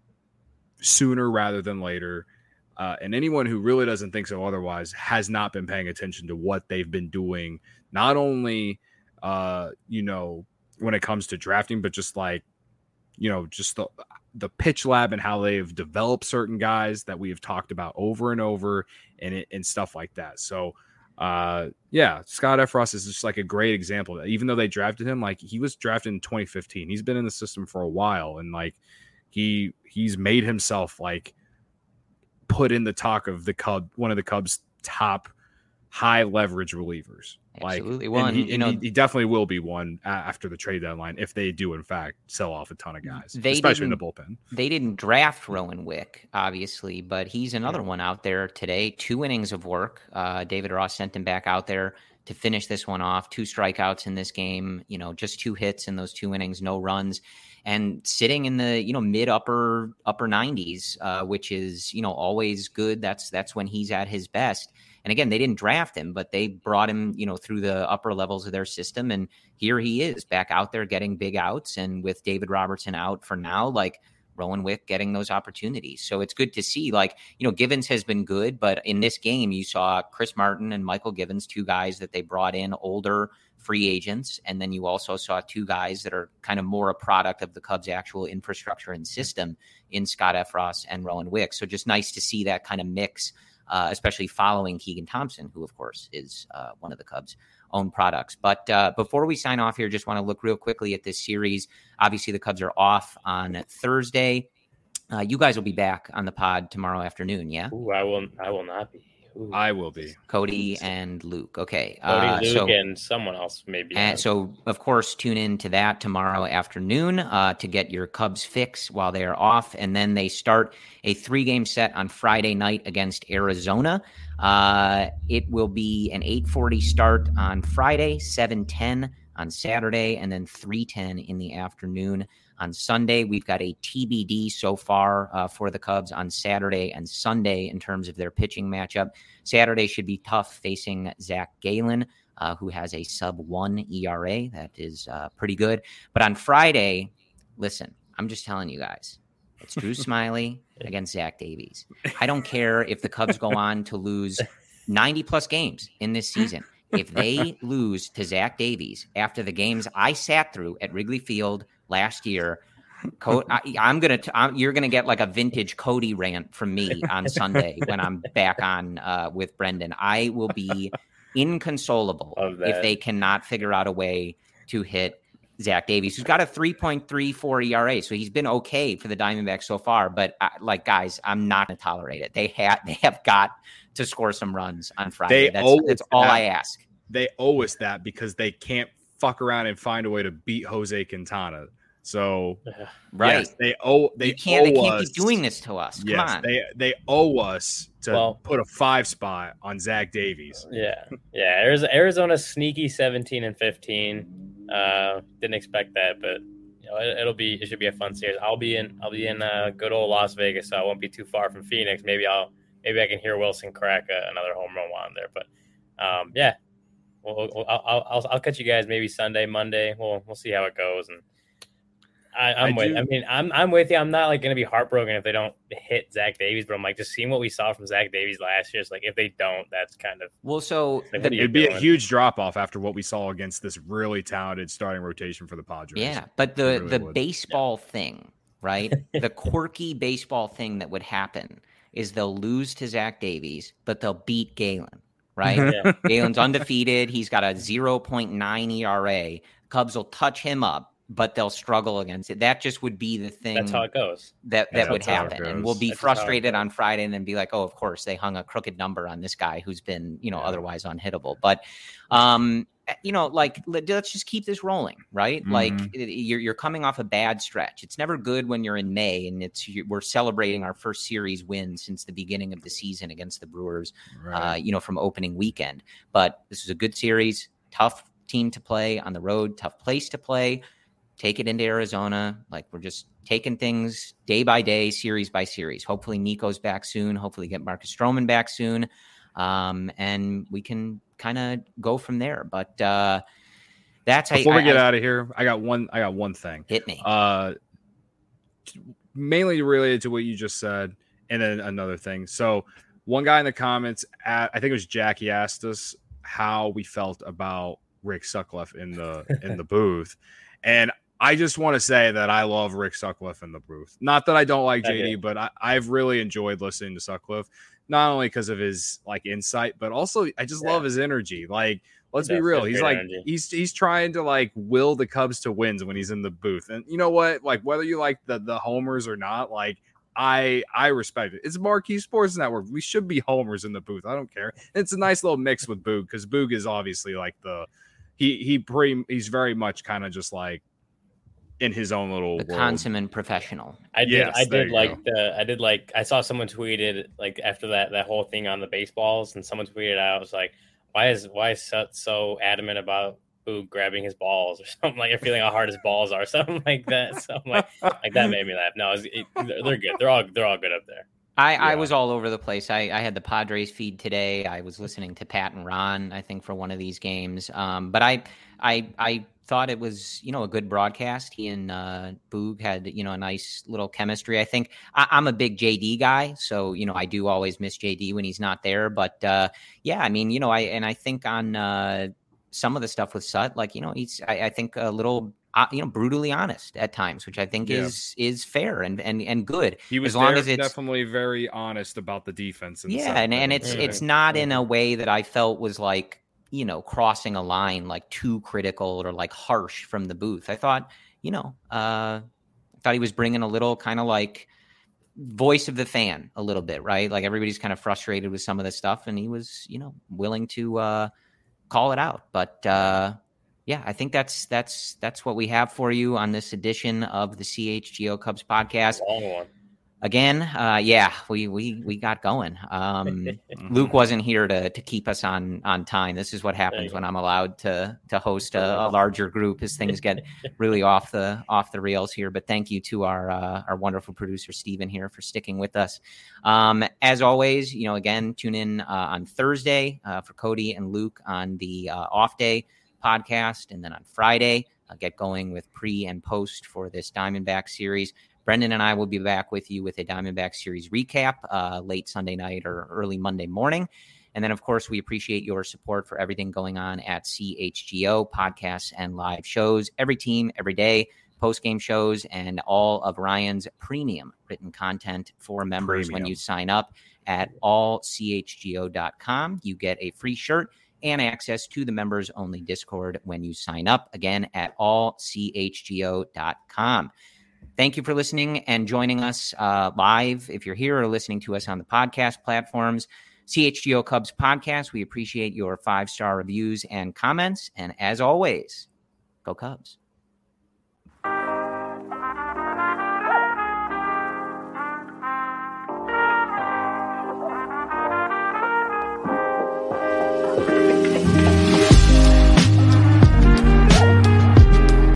C: sooner rather than later. Uh, and anyone who really doesn't think so otherwise has not been paying attention to what they've been doing, not only, uh, you know, when it comes to drafting, but just like, you know, just the the pitch lab and how they've developed certain guys that we have talked about over and over and it, and stuff like that. So, uh, yeah, Scott Effross is just like a great example. Even though they drafted him, like he was drafted in twenty fifteen, he's been in the system for a while, and like he he's made himself like put in the talk of the Cub, one of the Cubs' top high leverage relievers.
A: Absolutely.
C: Like,
A: well,
C: and he,
A: you
C: and
A: know,
C: he, he definitely will be one after the trade deadline if they do, in fact, sell off a ton of guys, especially in the bullpen.
A: They didn't draft Rowan Wick, obviously, but he's another yeah. one out there today. Two innings of work. Uh, David Ross sent him back out there to finish this one off. Two strikeouts in this game, you know, just two hits in those two innings, no runs, and sitting in the, you know, mid upper upper nineties, uh, which is, you know, always good. That's that's when he's at his best. And again, they didn't draft him, but they brought him, you know, through the upper levels of their system. And here he is back out there getting big outs. And with David Robertson out for now, like Rowan Wick getting those opportunities. So it's good to see, like, you know, Givens has been good, but in this game, you saw Chris Martin and Michael Givens, two guys that they brought in, older free agents. And then you also saw two guys that are kind of more a product of the Cubs' actual infrastructure and system in Scott Effross and Rowan Wick. So just nice to see that kind of mix. Uh, especially following Keegan Thompson, who, of course, is uh, one of the Cubs' own products. But uh, before we sign off here, just want to look real quickly at this series. Obviously, the Cubs are off on Thursday. Uh, you guys will be back on the pod tomorrow afternoon, yeah?
B: Ooh, I will I will not be. Ooh.
C: I will be.
A: Cody and Luke. Okay.
B: Cody,
A: uh,
B: Luke,
A: so,
B: and someone else maybe.
A: and so, of course, tune in to that tomorrow afternoon uh, to get your Cubs fix while they are off. And then they start a three-game set on Friday night against Arizona. Uh, it will be an eight forty start on Friday, seven ten on Saturday, and then three ten in the afternoon on Sunday. We've got a T B D so far uh, for the Cubs on Saturday and Sunday in terms of their pitching matchup. Saturday should be tough facing Zach Gallen, uh, who has a sub one E R A. That is uh, pretty good. But on Friday, listen, I'm just telling you guys, it's Drew Smiley against Zach Davies. I don't care if the Cubs go on to lose ninety plus games in this season. If they lose to Zach Davies after the games I sat through at Wrigley Field last year, Co- I, I'm gonna. T- I'm, you're gonna get like a vintage Cody rant from me on Sunday when I'm back on uh, with Brendan. I will be inconsolable if they cannot figure out a way to hit Zach Davies, who's got a three point three four E R A, so he's been okay for the Diamondbacks so far. But I, like, guys, I'm not gonna tolerate it. They have they have got to score some runs on Friday.
C: They
A: that's that's all
C: that.
A: I ask.
C: They owe us that because they can't fuck around and find a way to beat Jose Quintana. So,
A: right,
C: yes, they owe they
A: you can't,
C: owe
A: they can't
C: us,
A: be doing this to us. Come
C: yes,
A: on.
C: they they owe us to
B: well,
C: put a five spot on Zach Davies.
B: Yeah, yeah. Arizona, Arizona's sneaky seventeen and fifteen. Uh, didn't expect that, but you know, it, it'll be it should be a fun series. I'll be in I'll be in uh, good old Las Vegas, so I won't be too far from Phoenix. Maybe I'll maybe I can hear Wilson crack a, another home run while I'm there. But um, yeah, we'll, we'll, I'll, I'll I'll catch you guys maybe Sunday, Monday. We'll we'll see how it goes. And I, I'm
C: I
B: with.
C: do.
B: I mean, I'm I'm with you. I'm not like going to be heartbroken if they don't hit Zach Davies, but I'm like just seeing what we saw from Zach Davies last year. It's like if they don't, that's kind of
A: well. So
B: like,
A: the,
C: It'd be
B: doing?
C: a huge drop off after what we saw against this really talented starting rotation for the Padres.
A: yeah, but the
C: really
A: the
C: would.
A: baseball yeah. thing, right? The quirky baseball thing that would happen is they'll lose to Zach Davies, but they'll beat Gallen, right?
B: Yeah.
A: Galen's undefeated. He's got a zero point nine E R A. Cubs will touch him up, but they'll struggle against it. That just would be the thing.
B: That's how it goes.
A: That that
C: That's
A: would
C: how it
A: happen,
C: goes.
A: and we'll be
B: That's how it
A: frustrated
B: goes.
A: on Friday, and then be like, "Oh, of course they hung a crooked number on this guy who's been, you know,
C: Yeah.
A: otherwise unhittable." But, um, you know, like let, let's just keep this rolling, right?
C: Mhm.
A: Like you're you're coming off a bad stretch. It's never good when you're in May, and it's we're celebrating our first series win since the beginning of the season against the Brewers.
C: Right.
A: Uh, you know, from opening weekend. But this is a good series, tough team to play on the road, tough place to play. Take it into Arizona. Like we're just taking things day by day, series by series. Hopefully Nico's back soon. Hopefully get Marcus Stroman back soon. Um, and we can kind of go from there. But uh, that's
C: Before
A: I,
C: we get
A: I,
C: out of here, I got one. I got one thing.
A: Hit me.
C: Uh, mainly related to what you just said, and then another thing. So, one guy in the comments, at, I think it was Jackie, asked us how we felt about Rick Sutcliffe in the in the booth, and I just want to say that I love Rick Sutcliffe in the booth. Not that I don't like J D,
B: Okay.
C: but I, I've really enjoyed listening to Sutcliffe, not only because of his like insight, but also I just
B: Yeah.
C: love his energy. Like, let's
B: He
C: be
B: does.
C: real.
B: He has
C: He's
B: great
C: like
B: energy.
C: he's he's trying to like will the Cubs to wins when he's in the booth. And you know what? Like whether you like the the homers or not, like I I respect it. It's Marquee Sports Network. We should be homers in the booth. I don't care. It's a nice little mix with Boog because Boog is obviously like the he he pretty he's very much kind of just like in his own little
A: The
C: world.
A: consummate professional.
B: I did.
C: Yes,
B: I
C: there
B: did
C: you
B: like the. I did like. I saw someone tweeted like after that that whole thing on the baseballs, and someone tweeted out, "I was like, why is why is Sut so adamant about Boog grabbing his balls or something like, or feeling how hard his balls are, something like that." So I'm like, like that made me laugh. No, it was, it, they're, they're good. They're all they're all good up there.
A: I, I
C: Yeah.
A: was all over the place. I, I had the Padres feed today. I was listening to Pat and Ron, I think, for one of these games. Um, but I, I, I thought it was, you know, a good broadcast. He and uh, Boog had, you know, a nice little chemistry. I think I, I'm a big J D guy, so you know, I do always miss J D when he's not there. But uh, yeah, I mean, you know, I and I think on uh, some of the stuff with Sut, like you know, he's I, I think a little. Uh, you know, brutally honest at times, which I think
C: Yeah.
A: is is fair and and and good.
C: He was
A: as long
C: there,
A: as it's
C: definitely very honest about the defense. And
A: yeah,
C: stuff
A: and,
C: that
A: and
C: he
A: it's
C: did.
A: it's not in a way that I felt was like, you know, crossing a line, like too critical or like harsh from the booth. I thought, you know, uh, I thought he was bringing a little kind of like voice of the fan a little bit, right? Like everybody's kind of frustrated with some of this stuff, and he was, you know, willing to uh, call it out. But uh, yeah, I think that's that's that's what we have for you on this edition of the C H G O Cubs podcast.
B: Long one.
A: Again, uh, yeah, we we we got going. Um, Luke wasn't here to to keep us on on time. This is what happens when I'm allowed to to host a, a larger group, as things get really off the off the rails here. But thank you to our uh, our wonderful producer Steven here for sticking with us. Um, as always, you know, again, tune in uh, on Thursday uh, for Cody and Luke on the uh, off day podcast, and then on Friday, I'll get going with pre and post for this Diamondback series. Brendan and I will be back with you with a Diamondback series recap uh, late Sunday night or early Monday morning. And then, of course, we appreciate your support for everything going on at C H G O, podcasts and live shows, every team, every day, post-game shows, and all of Ryan's premium written content for members. Premium. When you sign up at all c h g o dot com. You get a free shirt and access to the members-only Discord when you sign up, again, at all c h g o dot com. Thank you for listening and joining us uh, live. If you're here or listening to us on the podcast platforms, C H G O Cubs podcast, we appreciate your five-star reviews and comments. And as always, go Cubs.